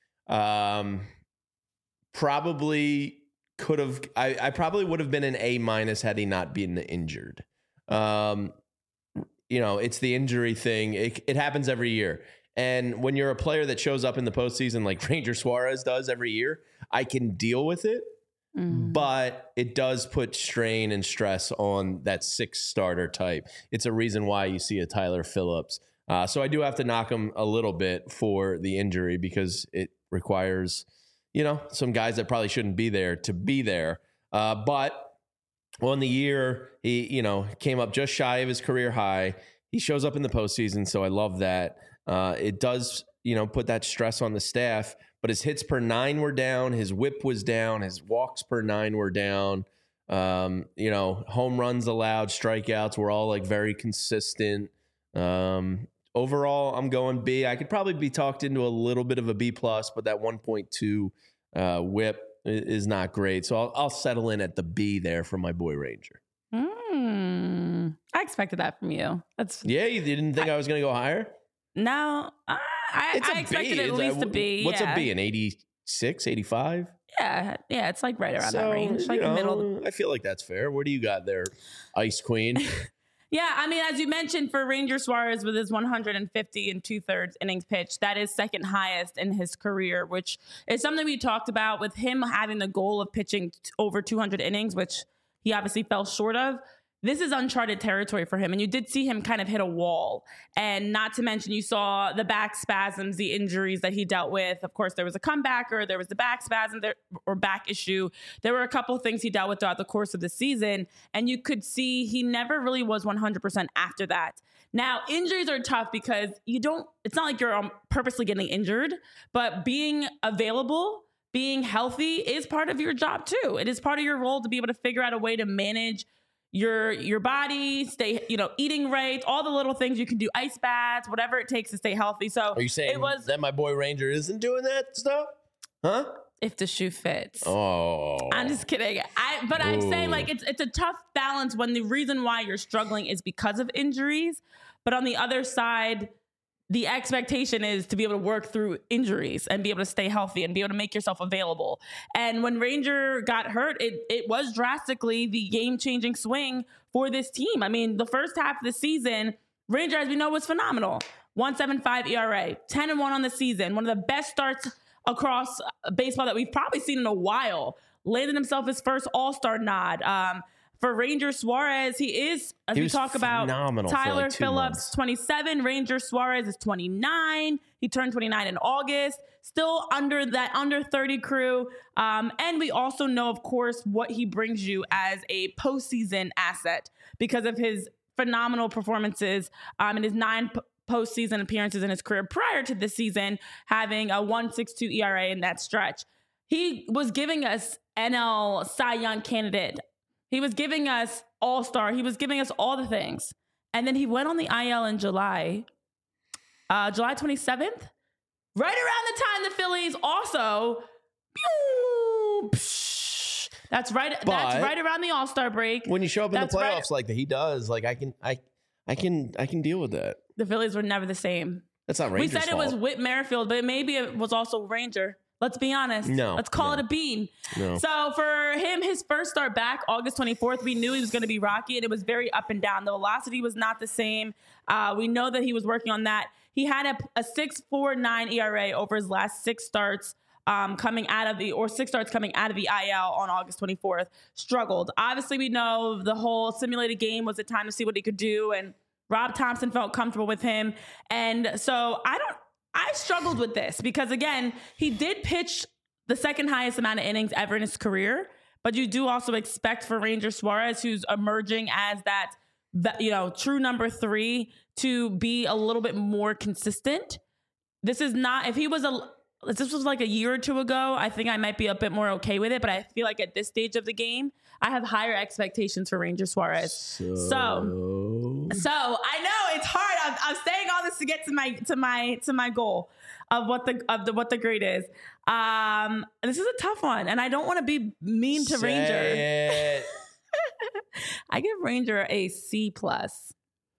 Um... Probably could have, I, I probably would have been an A minus had he not been injured. Um, you know, it's the injury thing. It, it happens every year. And when you're a player that shows up in the postseason like Ranger Suarez does every year, I can deal with it. Mm. But it does put strain and stress on that six starter type. It's a reason why you see a Tyler Phillips. Uh, so I do have to knock him a little bit for the injury because it requires, you know, some guys that probably shouldn't be there to be there. Uh, but on the year, he, you know, came up just shy of his career high. He shows up in the postseason, so I love that. Uh, it does, you know, put that stress on the staff, but his hits per nine were down. His whip was down. His walks per nine were down. Um, you know, home runs allowed, strikeouts were all like very consistent. Um, Overall, I'm going B. I could probably be talked into a little bit of a B plus, but that one point two uh, whip is not great. So I'll, I'll settle in at the B there for my boy Ranger. Mm, I expected that from you. That's yeah. You didn't think I, I was going to go higher? No, I, I, I expected B. at it's least a, a B. What's yeah. a B? An eighty, eighty-six, eighty-five. Yeah, yeah, it's like right around So, that range, like you know, middle. I feel like that's fair. What do you got there, Ice Queen? Yeah, I mean, as you mentioned, for Ranger Suarez with his one hundred fifty and two-thirds innings pitched, that is second highest in his career, which is something we talked about with him having the goal of pitching t- over two hundred innings, which he obviously fell short of. This is uncharted territory for him. And you did see him kind of hit a wall. And not to mention, you saw the back spasms, the injuries that he dealt with. Of course, there was a comebacker, there was the back spasm there, or back issue. There were a couple of things he dealt with throughout the course of the season. And you could see he never really was one hundred percent after that. Now, injuries are tough because you don't, it's not like you're um, purposely getting injured, but being available, being healthy is part of your job too. It is part of your role to be able to figure out a way to manage your your body, stay, you know, eating right, all the little things you can do, ice baths, whatever it takes to stay healthy. So Are you saying it was, that my boy Ranger isn't doing that stuff? Huh? if the shoe fits. Oh. I'm just kidding. I but I'm saying Ooh. like it's it's a tough balance when the reason why you're struggling is because of injuries. But on the other side, the expectation is to be able to work through injuries and be able to stay healthy and be able to make yourself available. And when Ranger got hurt, it it was drastically the game-changing swing for this team. I mean, the first half of the season, Ranger, as we know, was phenomenal. one point seven five E R A, ten and one on the season, one of the best starts across baseball that we've probably seen in a while. Landed himself his first All-Star nod. Um, For Ranger Suarez, he is, as He we was talk about, phenomenal for Tyler like two Phillips, months. twenty-seven. Ranger Suarez is twenty-nine. He turned twenty-nine in August. Still under that under thirty crew. Um, and we also know, of course, what he brings you as a postseason asset because of his phenomenal performances um, in his nine p- postseason appearances in his career prior to this season, having a one point six two E R A in that stretch. He was giving us N L Cy Young candidate. He was giving us all-star. He was giving us all the things. And then he went on the I L in July, uh, July twenty-seventh. Right around the time the Phillies also, pew, psh, that's right. But that's right around the All-Star break. When you show up in That's the right. playoffs like that, he does. Like I can, I, I can, I can deal with that. The Phillies were never the same. That's not We Rangers' said it was fault. Whit Merrifield, but maybe it was also Ranger. Let's be honest. No, Let's call no. it a bean. No. So for him, his first start back, August twenty-fourth, we knew he was going to be rocky, and it was very up and down. The velocity was not the same. Uh, we know that he was working on that. He had a, a six point four nine E R A over his last six starts um, coming out of the, or six starts coming out of the I L on August twenty-fourth. Struggled. Obviously, we know the whole simulated game was a time to see what he could do, and Rob Thompson felt comfortable with him. And so I don't, I struggled with this because, again, he did pitch the second highest amount of innings ever in his career. But you do also expect for Ranger Suarez, who's emerging as that, that, you know, true number three, to be a little bit more consistent. This is not, if he was a, if this was like a year or two ago, I think I might be a bit more okay with it. But I feel like at this stage of the game, I have higher expectations for Ranger Suarez. So, So, so I know it's hard. I'm, I'm saying all this to get to my to my to my goal of what the of the what the grade is. Um, this is a tough one, and I don't want to be mean to say Ranger. it. I give Ranger a C plus.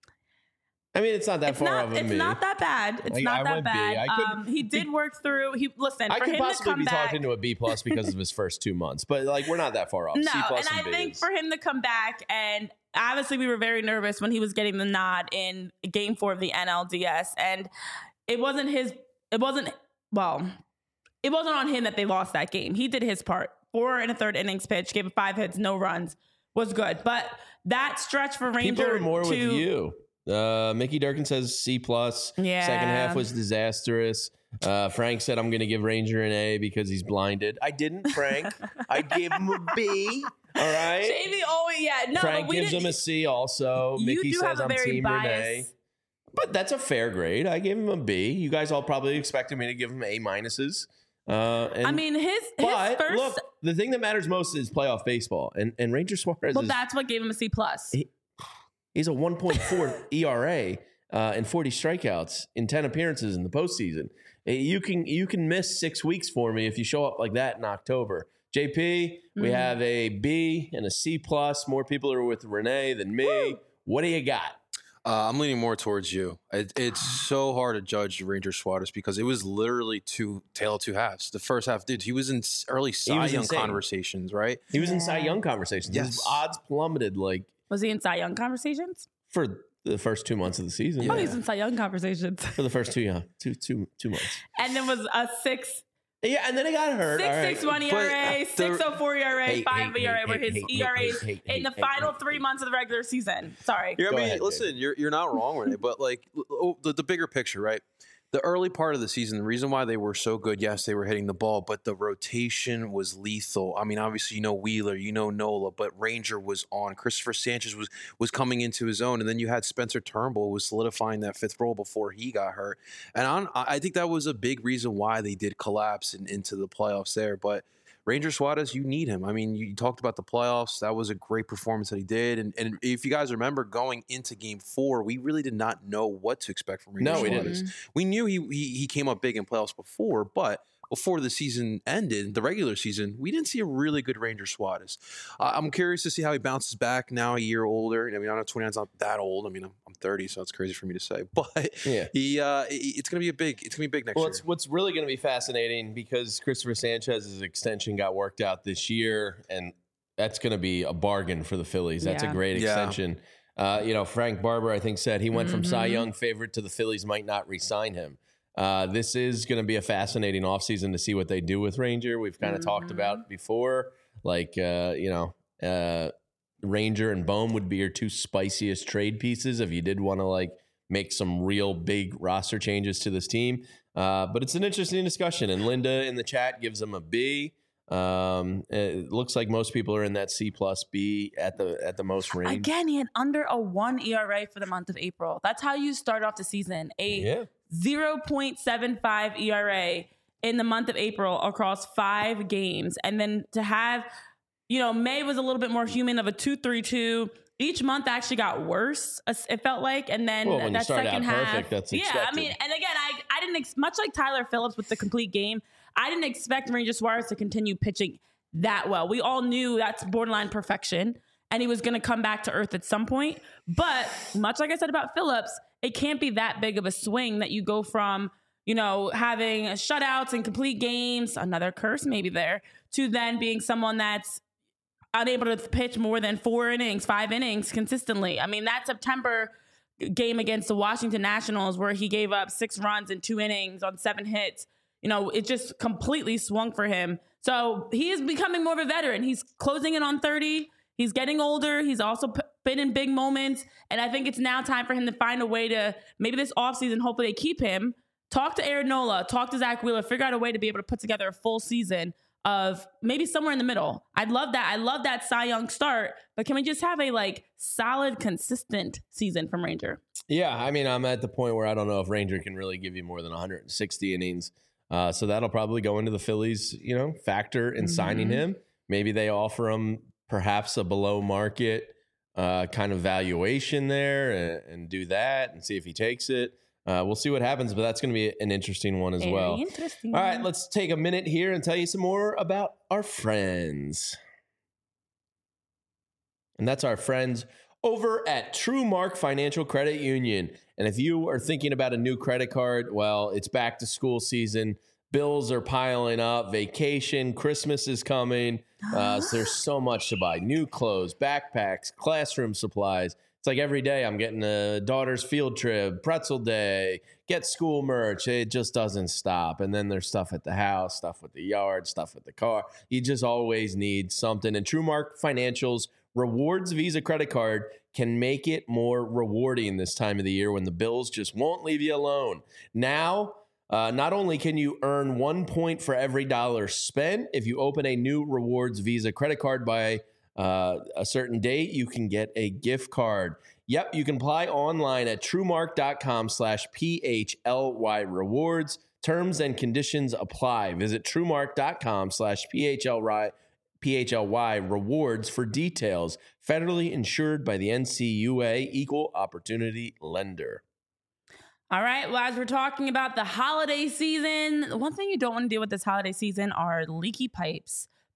I mean, it's not that It's far not. off of It's me. not that bad. It's I- not I that would be. bad. I could- um, he did work through. He listen. I for could him to possibly come be back, talked into a B plus because of his first two months, but like we're not that far off. No, C plus and I B think is- for him to come back, and obviously we were very nervous when he was getting the nod in Game Four of the N L D S, and it wasn't his. It wasn't well. It wasn't on him that they lost that game. He did his part. Four and a third innings pitch, gave it five hits, no runs, was good. But that stretch for Ranger people are more to, with you. Uh, Mickey Durkin says C plus. Yeah. Second half was disastrous. Uh, Frank said I'm going to give Ranger an A because he's blinded. I didn't, Frank. I gave him a B. All right. Jamie always, yeah, no, Frank but we gives didn't, him a C also. you Mickey do says have a I'm very Team biased. Renee. But that's a fair grade. I gave him a B. You guys all probably expected me to give him A minuses. Uh, and, I mean, his his but first. look, the thing that matters most is playoff baseball, and and Ranger Suarez well, is that's what gave him a C plus. He- he's a one point four E R A uh, and forty strikeouts in ten appearances in the postseason. Uh, You can you can miss six weeks for me if you show up like that in October. J P, we Mhm. have a B and a C plus. More people are with Renee than me. Woo. What do you got? Uh, I'm leaning more towards you. It, it's so hard to judge Ranger Suarez because it was literally two tail of two halves. The first half, dude, he was in s- early Cy was Young insane. conversations, right? He was in Cy Young conversations. His Yes. odds plummeted like Was he in Cy Young conversations? for the first two months of the season. Oh, he's in Cy Young conversations. For the first two, yeah, two, two, two months. And then was a six, Yeah, and then he got hurt. six, All right. six, one E R A, But six the- oh four E R A, Hey, five hey, E R A hey, were hey, his hey, E R As hey, hey, in the hey, final hey, three hey. months of the regular season. Sorry. Yeah, I Go mean, ahead, listen, you're you're not wrong, Renee, but like oh, the, the bigger picture, right? The early part of the season, the reason why they were so good, yes, they were hitting the ball, but the rotation was lethal. I mean, obviously, you know Wheeler, you know Nola, but Ranger was on. Christopher Sanchez was was coming into his own, and then you had Spencer Turnbull was solidifying that fifth role before he got hurt. And I'm, I think that was a big reason why they did collapse in, into the playoffs there. But Ranger Suarez, you need him. I mean, you talked about the playoffs. That was a great performance that he did. And, and if you guys remember going into game four, we really did not know what to expect from Ranger No, we Suarez. didn't. We knew he, he he came up big in playoffs before, but before the season ended, the regular season, we didn't see a really good Ranger Suarez. Uh, I'm curious to see how he bounces back now a year older. I mean, I know twenty-nine's not that old. I mean, I'm, I'm thirty, so it's crazy for me to say. But Yeah. he uh, it's going to be a big, it's going to be big next Well, year. it's, what's really going to be fascinating because Christopher Sanchez's extension got worked out this year, and that's going to be a bargain for the Phillies. That's Yeah. a great Yeah. extension. Uh, you know, Frank Barber, I think, said he went from Cy Mhm. Young favorite to the Phillies might not re-sign him. Uh, this is going to be a fascinating offseason to see what they do with Ranger. We've kind of talked Mhm. about before, like, uh, you know, uh, Ranger and Bohm would be your two spiciest trade pieces if you did want to, like, make some real big roster changes to this team. Uh, but it's an interesting discussion. And Linda in the chat gives them a B. Um, it looks like most people are in that C plus B at the at the most range. Again, he had under a one E R A for the month of April. That's how you start off the season. A Yeah. zero point seven five E R A in the month of April across five games. And then to have, you know, May was a little bit more human of a two three two. Each month actually got worse, it felt like. And then Well, when you that start second out half. perfect, that's yeah, I expected. mean, and again, I, I didn't, ex- much like Tyler Phillips with the complete game, I didn't expect Ranger Suarez to continue pitching that well. We all knew that's borderline perfection, and he was going to come back to earth at some point. But much like I said about Phillips, it can't be that big of a swing that you go from, you know, having shutouts and complete games, another curse maybe there, to then being someone that's unable to pitch more than four innings, five innings consistently. I mean, that September game against the Washington Nationals where he gave up six runs in two innings on seven hits, you know, it just completely swung for him. So he is becoming more of a veteran. He's closing in on thirty. He's getting older. He's also p- been in big moments. And I think it's now time for him to find a way to, maybe this offseason, hopefully they keep him. Talk to Aaron Nola, talk to Zach Wheeler, figure out a way to be able to put together a full season of maybe somewhere in the middle. I'd love that. I love that Cy Young start, but can we just have a like solid, consistent season from Ranger? Yeah, I mean, I'm at the point where I don't know if Ranger can really give you more than one hundred sixty innings. Uh, so that'll probably go into the Phillies, you know, factor in signing Mhm. him. Maybe they offer him perhaps a below market uh, kind of valuation there and, and do that and see if he takes it. Uh, we'll see what happens, but that's going to be an interesting one as Very well. interesting. All right, let's take a minute here and tell you some more about our friends. And that's our friends over at TrueMark Financial Credit Union. And if you are thinking about a new credit card, well, it's back to school season. Bills are piling up. Vacation, Christmas is coming. Uh, so there's so much to buy. New clothes, backpacks, classroom supplies. It's like every day I'm getting a daughter's field trip, pretzel day, get school merch. It just doesn't stop. And then there's stuff at the house, stuff with the yard, stuff with the car. You just always need something. And TrueMark Financial's Rewards Visa credit card can make it more rewarding this time of the year when the bills just won't leave you alone. Now, uh, not only can you earn one point for every dollar spent, if you open a new Rewards Visa credit card by uh, a certain date, you can get a gift card. Yep, you can apply online at truemark.com slash PHLY rewards. Terms and conditions apply. Visit truemark.com slash PHLY PHLY rewards for details. Federally insured by the N C U A, Equal Opportunity Lender. All right. Well, as we're talking about the holiday season, one thing you don't want to deal with this holiday season are leaky pipes.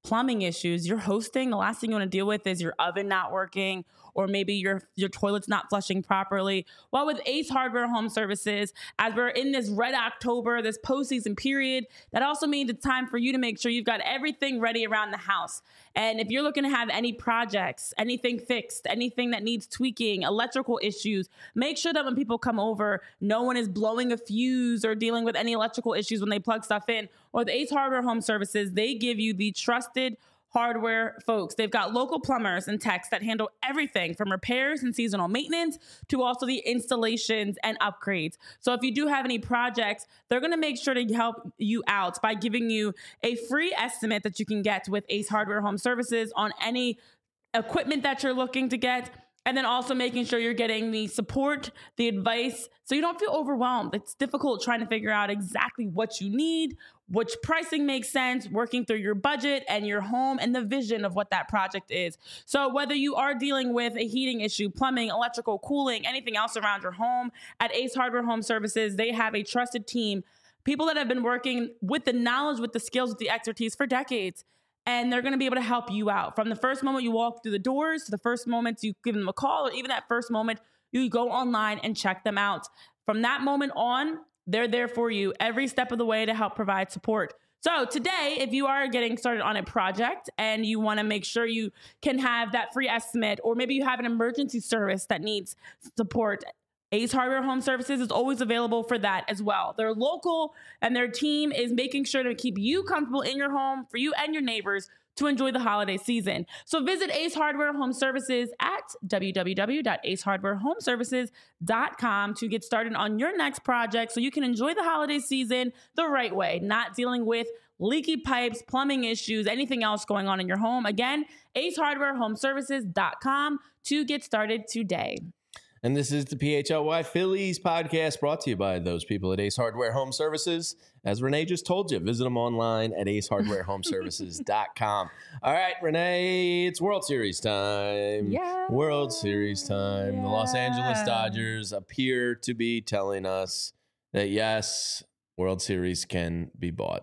plumbing issues. You're hosting, the last thing you want to deal with is your oven not working, or maybe your your toilet's not flushing properly. Well, with Ace Hardware Home Services, as we're in this red October, this postseason period, that also means it's time for you to make sure you've got everything ready around the house. And if you're looking to have any projects, anything fixed, anything that needs tweaking, electrical issues, make sure that when people come over, no one is blowing a fuse or dealing with any electrical issues when they plug stuff in. Or with Ace Hardware Home Services, they give you the trusted hardware folks. They've got local plumbers and techs that handle everything from repairs and seasonal maintenance to also the installations and upgrades. So if you do have any projects, they're going to make sure to help you out by giving you a free estimate that you can get with Ace Hardware Home Services on any equipment that you're looking to get. And then also making sure you're getting the support, the advice, so you don't feel overwhelmed. It's difficult trying to figure out exactly what you need, which pricing makes sense, working through your budget and your home and the vision of what that project is. So whether you are dealing with a heating issue, plumbing, electrical, cooling, anything else around your home, at Ace Hardware Home Services, they have a trusted team, people that have been working with the knowledge, with the skills, with the expertise for decades. And they're going to be able to help you out from the first moment you walk through the doors to the first moment you give them a call, or even that first moment you go online and check them out. From that moment on, they're there for you every step of the way to help provide support. So today, if you are getting started on a project and you want to make sure you can have that free estimate, or maybe you have an emergency service that needs support, Ace Hardware Home Services is always available for that as well. They're local, and their team is making sure to keep you comfortable in your home for you and your neighbors to enjoy the holiday season. So visit Ace Hardware Home Services at w w w dot ace hardware home services dot com to get started on your next project so you can enjoy the holiday season the right way, not dealing with leaky pipes, plumbing issues, anything else going on in your home. Again, ace hardware home services dot com to get started today. And this is the P H L Y Phillies podcast, brought to you by those people at Ace Hardware Home Services. As Renee just told you, visit them online at ace hardware home services dot com. All right, Renee, it's World Series time. Yeah. World Series time. Yeah. The Los Angeles Dodgers appear to be telling us that, yes, World Series can be bought.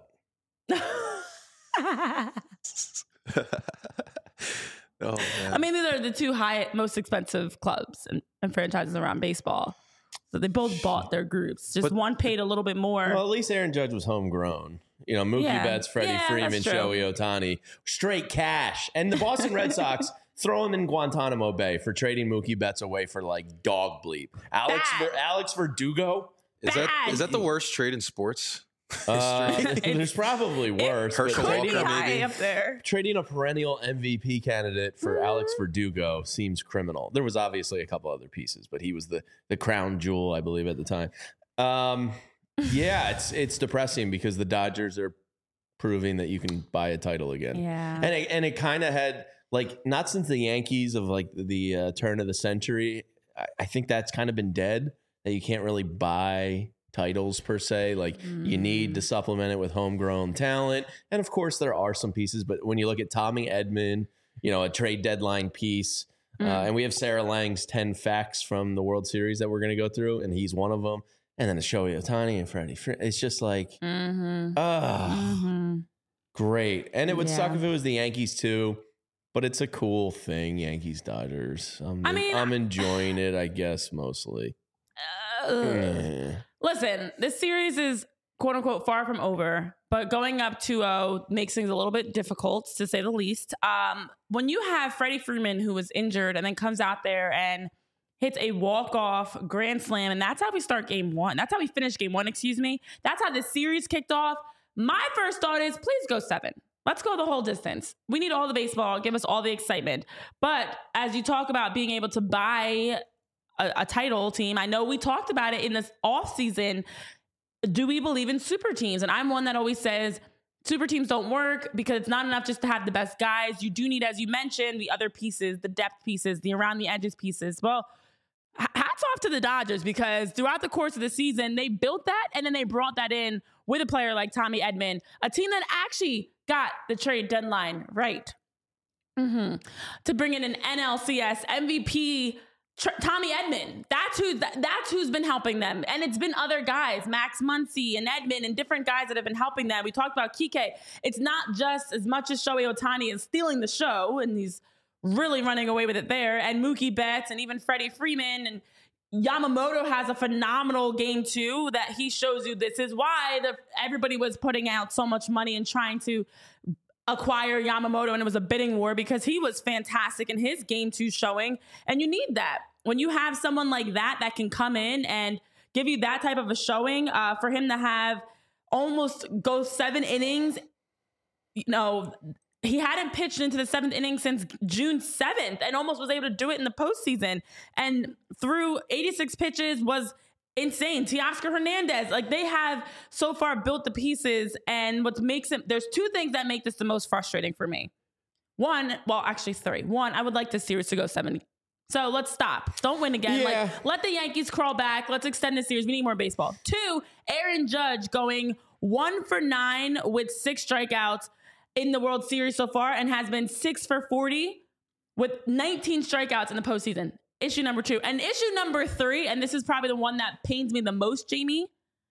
Oh, man. I mean, these are the two high, most expensive clubs and, and franchises around baseball. So they both bought their groups. Just But- one paid a little bit more. Well, at least Aaron Judge was homegrown. You know, Mookie Yeah. Betts, Freddie Yeah, Freeman, that's true. Shohei Ohtani, straight cash. And the Boston Red Sox throw him in Guantanamo Bay for trading Mookie Betts away for like dog bleep. Alex Bad. Ver, Alex Verdugo. Is that Bad. is that the worst trade in sports? Uh, It's- there's probably worse. but Herschel trading, Walker, high maybe? up there. trading a perennial M V P candidate for Alex Verdugo seems criminal. There was obviously a couple other pieces, but he was the the crown jewel, I believe, at the time. Um, yeah, it's it's depressing because the Dodgers are proving that you can buy a title again. Yeah. And it, and it kind of had, like, not since the Yankees of like the uh, turn of the century. I, I think that's kind of been dead, that you can't really buy titles per se. Like you need to supplement it with homegrown talent. And of course there are some pieces, but when you look at Tommy Edman, you know, a trade deadline piece, uh, and we have Sarah Lang's ten facts from the World Series that we're going to go through, and he's one of them. And then the Shohei Ohtani and Freddie. It's just like, Mm-hmm. ah, Mm-hmm. great. And it would suck Yeah. if it was the Yankees too, but it's a cool thing, Yankees Dodgers. I'm, I mean, I'm enjoying it, I guess, mostly. Eh. Listen, this series is quote unquote far from over, but going up two oh makes things a little bit difficult, to say the least. Um, when you have Freddie Freeman, who was injured and then comes out there and hits a walk-off grand slam, and that's how we start game one. That's how we finish game one, excuse me. That's how this series kicked off. My first thought is, please go seven. Let's go the whole distance. We need all the baseball. Give us all the excitement. But as you talk about being able to buy a, a title team, I know we talked about it in this offseason. Do we believe in super teams? And I'm one that always says super teams don't work because it's not enough just to have the best guys. You do need, as you mentioned, the other pieces, the depth pieces, the around the edges pieces. Well, hats off to the Dodgers, because throughout the course of the season, they built that and then they brought that in with a player like Tommy Edman, a team that actually got the trade deadline right. Mm-hmm. To bring in an N L C S M V P Tr- Tommy Edman. That's who. That, that's who's been helping them, and it's been other guys, Max Muncy and Edman, and different guys that have been helping them. We talked about Kike. It's not just as much as Shohei Ohtani is stealing the show, and he's really running away with it there, and Mookie Betts, and even Freddie Freeman, and Yamamoto has a phenomenal game too. That he shows you this is why the, everybody was putting out so much money and trying to acquire Yamamoto, and it was a bidding war because he was fantastic in his game two showing. And you need that when you have someone like that that can come in and give you that type of a showing. Uh, for him to have almost go seven innings, you know, he hadn't pitched into the seventh inning since June seventh and almost was able to do it in the postseason. And through eighty-six pitches was insane. Teoscar Hernandez, like they have so far built the pieces, and what makes it, there's two things that make this the most frustrating for me. One, well, actually three. One, I would like the series to go seven. So let's stop. Don't win again. Yeah. Like let the Yankees crawl back. Let's extend the series. We need more baseball. Two, Aaron Judge going one for nine with six strikeouts in the World Series so far, and has been six for forty with nineteen strikeouts in the postseason. Issue number two. And issue number three, and this is probably the one that pains me the most, Jamie.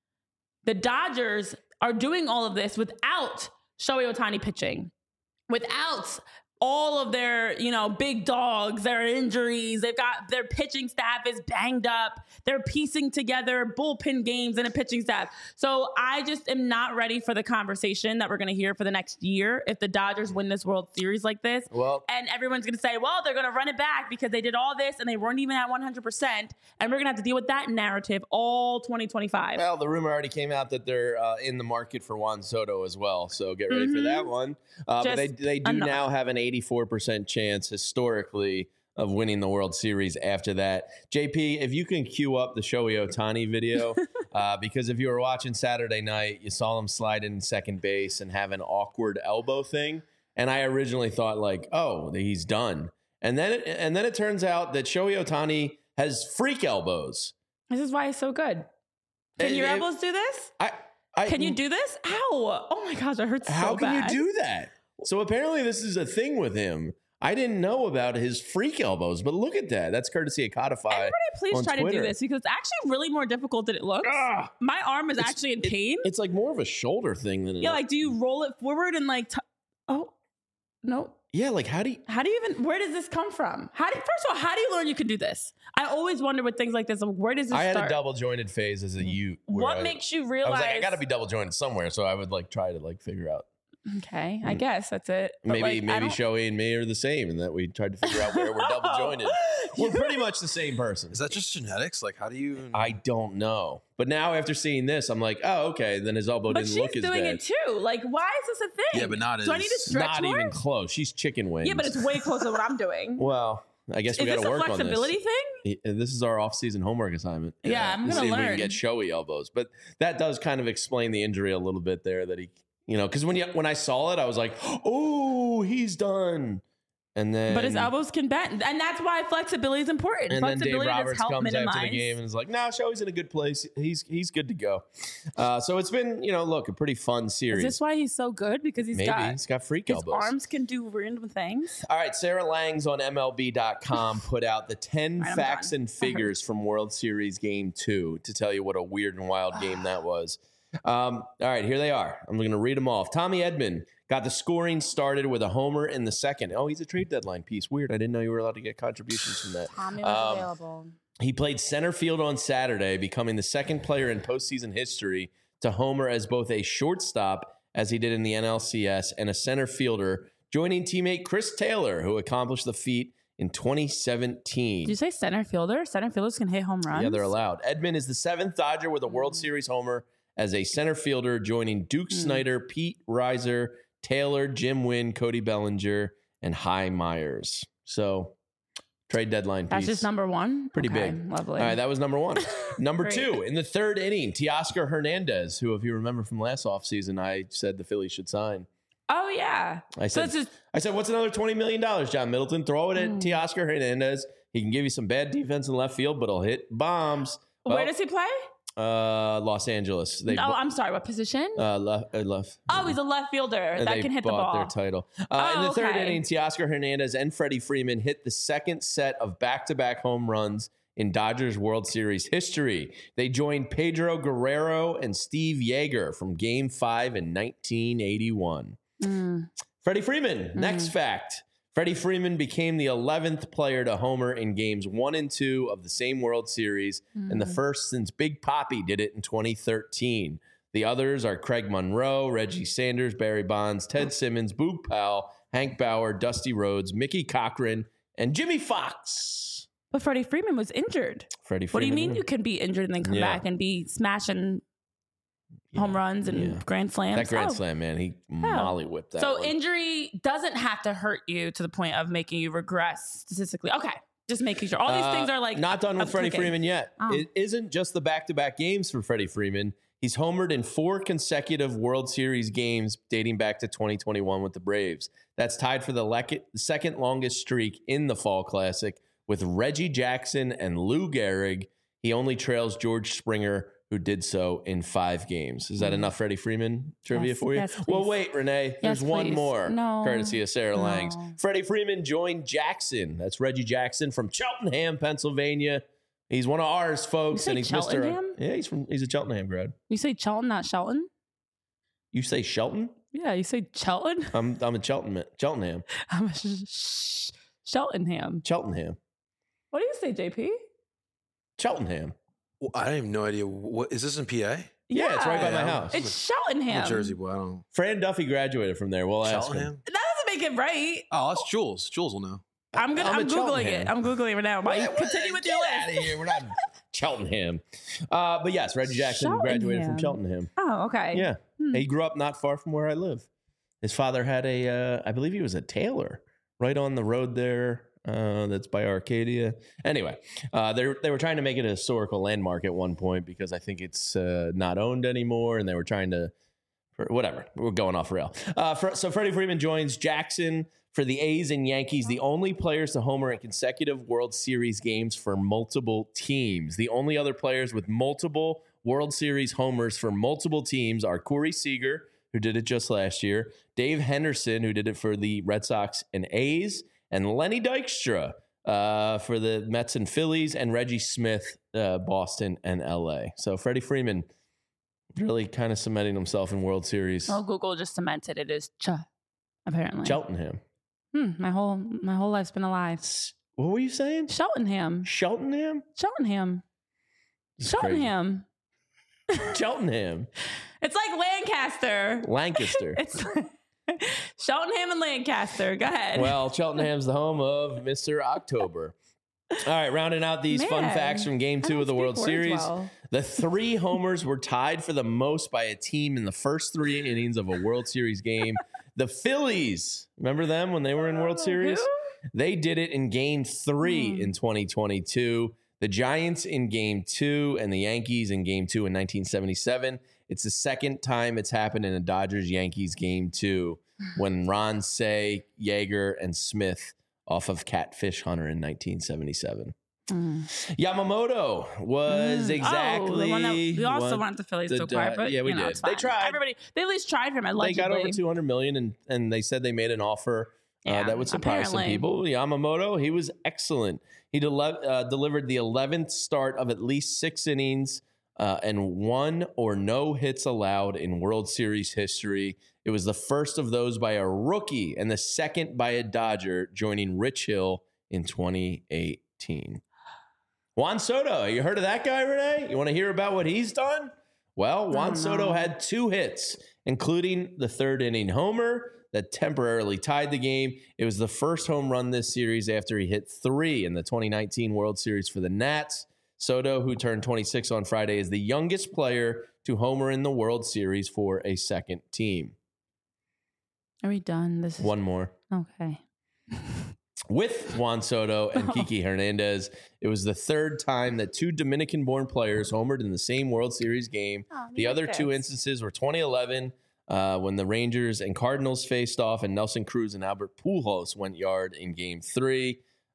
The Dodgers are doing all of this without Shohei Ohtani pitching, without all of their, you know, big dogs, their injuries. They've got their pitching staff is banged up. They're piecing together bullpen games and a pitching staff. So I just am not ready for the conversation that we're going to hear for the next year if the Dodgers win this World Series like this. Well, and everyone's going to say, well, they're going to run it back because they did all this and they weren't even at one hundred percent. And we're going to have to deal with that narrative all twenty twenty-five. Well, the rumor already came out that they're uh, in the market for Juan Soto as well. So get ready mm-hmm. for that one. Uh, but they, they do enough. now have an eighty-four percent chance historically of winning the World Series after that. J P, if you can cue up the Shohei Ohtani video, uh, because if you were watching Saturday night, you saw him slide in second base and have an awkward elbow thing. And I originally thought like, oh, he's done. And then it, and then it turns out that Shohei Ohtani has freak elbows. This is why he's so good. Can it, your it, elbows do this? I, I Can you do this? Ow. Oh my gosh, it hurts so bad. How can you do that? So apparently this is a thing with him. I didn't know about his freak elbows, but look at that. That's courtesy of Codify. Everybody please try Twitter. to do this because it's actually really more difficult than it looks. Ah, My arm is actually in it, pain. It's like more of a shoulder thing than Yeah, like do you roll it forward and like, t- oh, no. Yeah, like how do you? How do you even, where does this come from? How do you, first of all, how do you learn you can do this? I always wonder with things like this, like, where does this I had start? a double jointed phase as a youth. What I, makes you I realize? was like, I got to be double jointed somewhere. So I would like try to like figure out. Okay, I guess that's it. But maybe like, maybe Shohei and me are the same in that we tried to figure out where we're double jointed. We're pretty much the same person. Is that just genetics? Like, how do you? I don't know. But now after seeing this, I'm like, oh, okay. Then his elbow but didn't she's look as bad. doing it too. Like, why is this a thing? Yeah, but not Do as. I need to stretch Not more? even close. She's chicken wings. Yeah, but it's way closer to what I'm doing. Well, I guess we got to work on this. Is this a flexibility thing? This is our off-season homework assignment. Yeah, yeah. I'm to gonna see learn. if we can get Shohei elbows, but that does kind of explain the injury a little bit there. That he, you know, because when you when I saw it, I was like, oh, he's done. And then, but his elbows can bend, and that's why flexibility is important. And then Dave Flexibility Roberts does help comes minimize. after the game and is like, "No, nah, Shohei's in a good place. He's he's good to go." Uh, so it's been, you know, look, a pretty fun series. Is this why he's so good? Because he's Maybe got he's got freak his elbows. arms can do random things. All right, Sarah Langs on M L B dot com put out the ten right, facts done. and figures from World Series Game Two to tell you what a weird and wild game that was. Um, all right, here they are. I'm going to read them off. Tommy Edman got the scoring started with a homer in the second. Oh, he's a trade deadline piece. Weird. I didn't know you were allowed to get contributions from that. Tommy was Um, available. He played center field on Saturday, becoming the second player in postseason history to homer as both a shortstop, as he did in the N L C S, and a center fielder, joining teammate Chris Taylor, who accomplished the feat in twenty seventeen. Did you say center fielder? Center fielders can hit home runs? Yeah, they're allowed. Edman is the seventh Dodger with a World Series homer as a center fielder, joining Duke Mm. Snyder, Pete Reiser, Taylor, Jim Wynn, Cody Bellinger, and Hy Myers. So, trade deadline That's piece. just number one? Pretty Okay, big. Lovely. All right, that was number one. Number Great. two, in the third inning, Teoscar Hernandez, who, if you remember from last offseason, I said the Phillies should sign. Oh, yeah. I So said, it's just, I said, what's another twenty million dollars, John Middleton? Throw it at Mm. Teoscar Hernandez. He can give you some bad defense in left field, but he'll hit bombs. Well, where does he play? Uh, Los Angeles. They oh, bo- I'm sorry. What position? uh, left, uh, left. oh, he's a left fielder And that they can hit the bought ball. their title. Uh, Oh, in the third okay. inning, Teoscar Hernandez and Freddie Freeman hit the second set of back-to-back home runs in Dodgers World Series history. They joined Pedro Guerrero and Steve Yeager from Game Five in nineteen eighty-one. Mm. Freddie Freeman. Next fact. Freddie Freeman became the eleventh player to homer in games one and two of the same World Series, and the first since Big Papi did it in twenty thirteen. The others are Craig Monroe, Reggie Sanders, Barry Bonds, Ted Simmons, Boog Powell, Hank Bauer, Dusty Rhodes, Mickey Cochran, and Jimmy Fox. But Freddie Freeman was injured. Freddie What do Freeman. you mean you can be injured and then come Yeah. back and be smashing home runs and Yeah. grand slams? That grand Oh. slam, man, he molly whipped that. So one. injury doesn't have to hurt you to the point of making you regress statistically. Okay, just making sure. All these Uh, things are like not done with up Freddie cooking. Freeman yet. Oh. It isn't just the back-to-back games for Freddie Freeman. He's homered in four consecutive World Series games dating back to twenty twenty-one with the Braves. That's tied for the lec- second longest streak in the Fall Classic with Reggie Jackson and Lou Gehrig. He only trails George Springer, who did so in five games. Is that enough Freddie Freeman trivia Yes, for you? yes, well, please. wait, Renee. There's Yes, one please. more, No. courtesy of Sarah No. Langs. Freddie Freeman joined Jackson. That's Reggie Jackson from Cheltenham, Pennsylvania. He's one of ours, folks, say and he's Cheltenham? Mister Yeah, he's from he's a Cheltenham grad. You say Chelton, not Shelton? You say Shelton? Yeah, you say Chelton. I'm I'm a Cheltenham. Cheltenham. I'm a sh- sh- Cheltenham. Cheltenham. What do you say, J P? Cheltenham. Well, I have no idea. What is this in P A? Yeah, it's right by my Yeah. house. It's I'm Cheltenham. a Jersey boy. I don't. Fran Duffy graduated from there. We'll ask him. Cheltenham. That doesn't make it right. Oh, that's Jules. Jules will know. I'm gonna. I'm I'm, a googling Cheltenham. it. I'm googling it right now. While you Wait, continue with get your out list. of here. We're not Cheltenham. Uh, but yes, Reggie Jackson graduated from Cheltenham. Cheltenham. Oh, okay. Yeah. Hmm. He grew up not far from where I live. His father had a, uh, I believe he was a tailor right on the road there. Uh, that's by Arcadia. Anyway, uh, they they were trying to make it a historical landmark at one point because I think it's uh, not owned anymore, and they were trying to, for whatever. We're going off rail. Uh, for, so Freddie Freeman joins Jackson for the A's and Yankees, the only players to homer in consecutive World Series games for multiple teams. The only other players with multiple World Series homers for multiple teams are Corey Seager, who did it just last year, Dave Henderson, who did it for the Red Sox and A's, and Lenny Dykstra uh, for the Mets and Phillies, and Reggie Smith, uh, Boston and L A. So Freddie Freeman really kind of cementing himself in World Series. Well, Google just cemented it as Ch. Apparently. Cheltenham. Hmm, my whole my whole life's been a lie. What were you saying? Cheltenham. Cheltenham? Cheltenham. This is crazy. Cheltenham. Cheltenham. It's like Lancaster. Lancaster. It's Cheltenham and Lancaster. Go ahead. Well, Cheltenham's the home of Mister October. All right, rounding out these fun Man, facts from Game I Two don't of the speak World words Series. well. The three homers were tied for the most by a team in the first three innings of a World Series game. The Phillies, remember them when they were in World Series? Who? They did it in Game Three Hmm. in twenty twenty-two. The Giants in Game Two and the Yankees in Game Two in nineteen seventy-seven. It's the second time it's happened in a Dodgers-Yankees Game Two when Ron Say, Yeager, and Smith off of Catfish Hunter in nineteen seventy-seven. Mm. Yamamoto was Mm. exactly. Oh, the one that we also what want the Phillies the to acquire, Dod- but yeah, we you know, did. it's They fine. tried. Everybody, they at least tried for him. They Allegedly. got over two hundred million, and and they said they made an offer uh, Yeah, that would surprise some apparently. people. Yamamoto, he was excellent. He dele- uh, delivered the eleventh start of at least six innings uh, and one or no hits allowed in World Series history. It was the first of those by a rookie and the second by a Dodger, joining Rich Hill in twenty eighteen. Juan Soto, you heard of that guy, Renee? You want to hear about what he's done? Well, Juan Oh, Soto no. had two hits, including the third inning homer that temporarily tied the game. It was the first home run this series after he hit three in the twenty nineteen World Series for the Nats. Soto, who turned twenty-six on Friday, is the youngest player to homer in the World Series for a second team. Are we done? This is One more. okay. With Juan Soto and Kiki Hernandez, it was the third time that two Dominican-born players homered in the same World Series game. Oh, The you other like two this. instances were twenty eleven uh, when the Rangers and Cardinals faced off, and Nelson Cruz and Albert Pujols went yard in Game Three.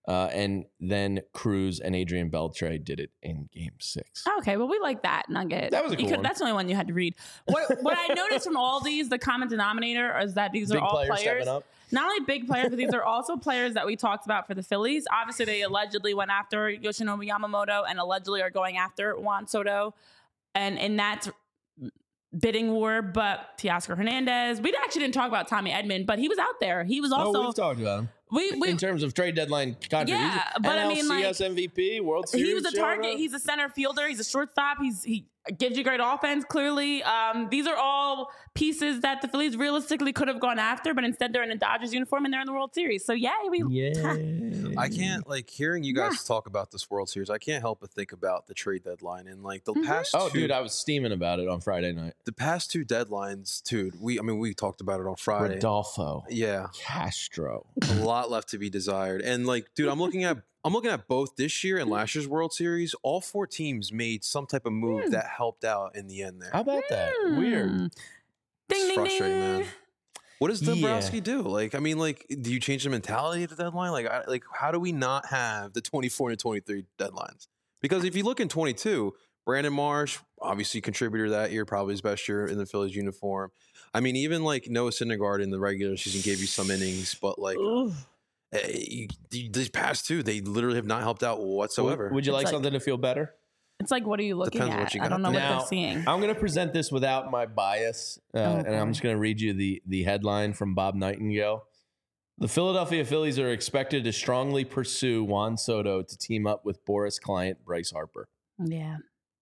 Uh, and then Cruz and Adrian Beltre did it in game six. Okay, well, we like that nugget. That was a You cool could- one. That's the only one you had to read. What what I noticed from all these, the common denominator is that these Big are all players players. stepping up. Not only big players, but these are also players that we talked about for the Phillies. Obviously, they allegedly went after Yoshinobu Yamamoto and allegedly are going after Juan Soto. And in that bidding war, but Teoscar Hernandez, we actually didn't talk about Tommy Edman, but he was out there. He was also... oh, we've talked about him. we, we, in terms of trade deadline contributions. Yeah, but I mean, like, N L C S M V P, World Series. he was a showing target. up. He's a center fielder. He's a shortstop. He's he gives you great offense. Clearly, um, these are all pieces that the Phillies realistically could have gone after, but instead they're in a Dodgers uniform and they're in the World Series. So yeah, we Yeah. I can't like hearing you guys talk about this World Series. I can't help but think about the trade deadline and like the Mhm. past. Oh, two, dude, I was steaming about it on Friday night. the past two deadlines, dude. We, I mean, we talked about it on Friday. Rodolfo Yeah, Castro. a lot left to be desired. And like, dude, I'm looking at I'm looking at both this year and last year's World Series. All four teams made some type of move Hmm. that helped out in the end there. How about that? Weird. Hmm. Ding, It's ding, frustrating, ding. man. What does Yeah. Dombrowski do? Like, I mean, like, do you change the mentality at the deadline? Like, I, like, how do we not have the twenty-four and twenty-three deadlines? Because if you look in twenty-two, Brandon Marsh, obviously contributor that year, probably his best year in the Phillies uniform. I mean, even like Noah Syndergaard in the regular season gave you some innings, but like Ooh. eh, you, you- these past two, they literally have not helped out whatsoever. Would, would you It's like, like- something to feel better? It's like, what are you looking Depends at? what you I got don't know there. what Now- they're seeing. I'm going to present this without my bias, uh, Oh, and I'm boy. just going to read you the, the headline from Bob Nightingale. The Philadelphia Phillies are expected to strongly pursue Juan Soto to team up with Boris client Bryce Harper. Yeah.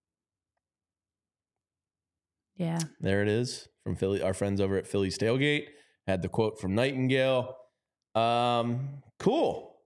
Yeah. There it is from Philly. Our friends over at Phillies Tailgate had the quote from Nightingale. Um, cool.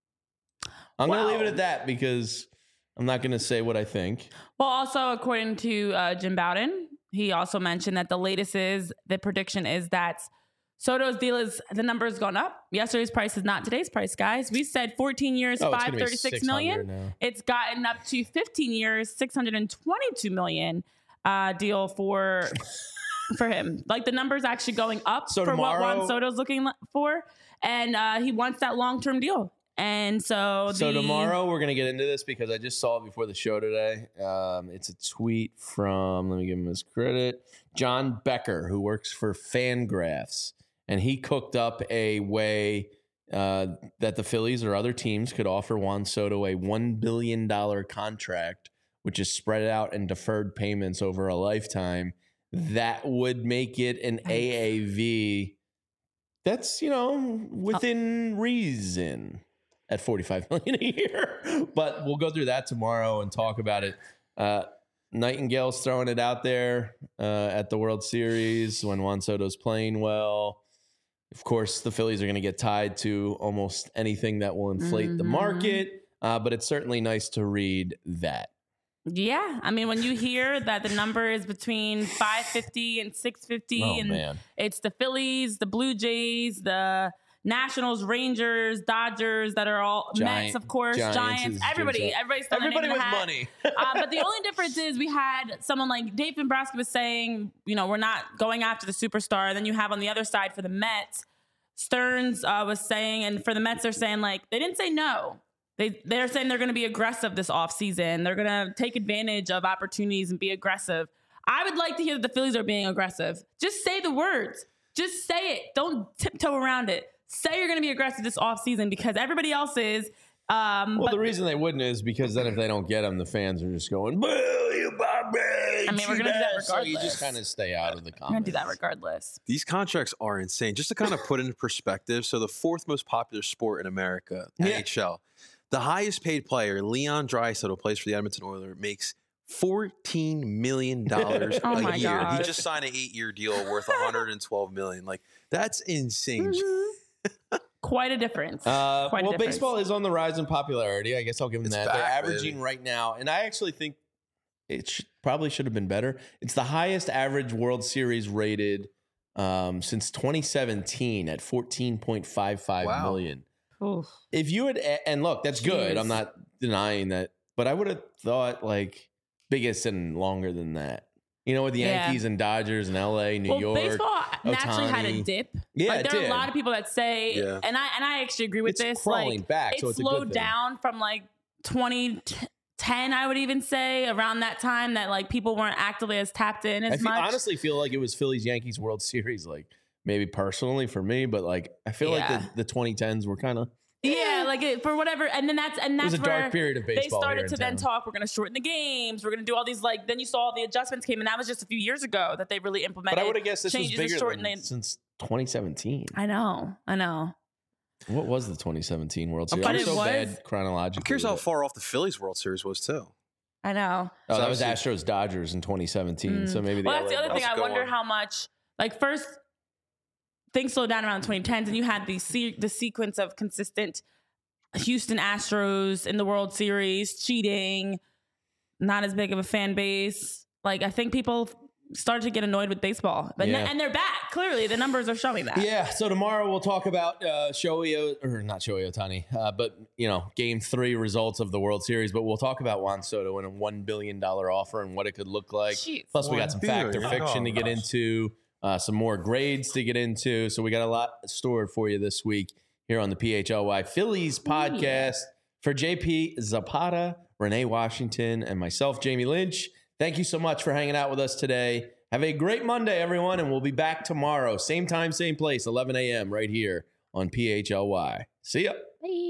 I'm going to leave it Wow. at that because I'm not going to say what I think. Well, also, according to uh, Jim Bowden, he also mentioned that the latest is the prediction is that Soto's deal is the number has gone up. Yesterday's price is not today's price, guys. We said fourteen years, Oh, it's five gonna be thirty-six six hundred million. now. It's gotten up to fifteen years, six hundred twenty-two million uh, deal for for him. Like the number's actually going up So for what tomorrow- Juan Soto's looking li- for, and uh, he wants that long term deal. And so, So the, tomorrow we're gonna get into this because I just saw it before the show today. Um, it's a tweet from, let me give him his credit, John Becker, who works for Fangraphs, and he cooked up a way uh, that the Phillies or other teams could offer Juan Soto a one billion dollars contract, which is spread out and deferred payments over a lifetime. That would make it an A A V that's, you know, within reason at forty-five million dollars a year. But we'll go through that tomorrow and talk about it. Uh, Nightingale's throwing it out there uh, at the World Series when Juan Soto's playing well. Of course, the Phillies are going to get tied to almost anything that will inflate the Mhm. market, uh, but it's certainly nice to read that. Yeah, I mean, when you hear that the number is between five fifty and six fifty, Oh, and man. it's the Phillies, the Blue Jays, the Nationals, Rangers, Dodgers that are all Giant- Mets, of course, Giants Giants, is everybody, just- everybody's throwing their Everybody name in with the hat. money. uh, but the only difference is we had someone like Dave Dombrowski was saying, you know, we're not going after the superstar. And then you have on the other side for the Mets, Stearns uh, was saying, and for the Mets, they're saying like they didn't say no. They they're saying they're going to be aggressive this offseason. They're going to take advantage of opportunities and be aggressive. I would like to hear that the Phillies are being aggressive. Just say the words. Just say it. Don't tiptoe around it. Say you're going to be aggressive this offseason because everybody else is. Um, Well, but the reason they wouldn't is because then if they don't get them, the fans are just going, boo, you Bobby. I mean, we're gonna do that So you regardless. just kind of stay out of the comments. I'm going to do that regardless. These contracts are insane. Just to kind of put into perspective, so the fourth most popular sport in America, Yeah. N H L, the highest paid player, Leon Draisaitl, who plays for the Edmonton Oilers, makes fourteen million dollars Oh a my year. God. He just signed an eight-year deal worth one hundred twelve million dollars. Like, that's insane. Quite a difference. Uh, Quite a well, difference. baseball is on the rise in popularity. I guess I'll give them It's that. They're back, averaging baby. right now, and I actually think it should, probably should have been better. It's the highest average World Series rated um, since twenty seventeen at fourteen point five five Wow. million. Oof. If you had, and look, that's good. Jeez. I'm not denying that, but I would have thought like biggest and longer than that. You know, with the Yeah. Yankees and Dodgers and L A, New well, York. baseball naturally had a Ohtani. dip. Yeah, like it there are did. a lot of people that say, Yeah. and I and I actually agree with It's this. crawling like, back, it so it's a good slowed thing. down from like twenty ten, I would even say, around that time that like people weren't actively as tapped in as I feel, much. honestly feel like it was Phillies Yankees World Series, like maybe personally for me, but like I feel Yeah. like the, the twenty tens were kind of yeah, like it, for whatever, and then that's and it that's was a where dark period of they baseball. started here to in then town. talk. We're going to shorten the games. We're going to do all these like. Then you saw all the adjustments came, and that was just a few years ago that they really implemented. But I would have guessed this was changes to bigger shorten than, the- since twenty seventeen. I know, I know. What was the twenty seventeen World I'm Series? I'm, curious- so But it bad was- chronologically. I'm curious how with it. far off the Phillies World Series was too. I know. Oh, So that was obviously- Astros Dodgers in twenty seventeen. So maybe Well, the that's the L A other thing. Let's I go wonder on. how much, like, first things slowed down around the twenty tens, and you had the se- the sequence of consistent Houston Astros in the World Series, cheating, not as big of a fan base. Like, I think people started to get annoyed with baseball, but Yeah. and they're back. Clearly, the numbers are showing that. Yeah, so tomorrow we'll talk about uh, Shohei, O- or not Shohei Ohtani, uh, but, you know, game three results of the World Series. But we'll talk about Juan Soto and a one billion dollars offer and what it could look like. Jeez. Plus, we got some fact or $one billion fiction to get into, uh, some more grades to get into. So we got a lot stored for you this week here on the P H L Y Phillies podcast. For J P Zapata, Renee Washington, and myself, Jamie Lynch, thank you so much for hanging out with us today. Have a great Monday, everyone, and we'll be back tomorrow. Same time, same place, eleven a.m. right here on P H L Y. See ya. Bye.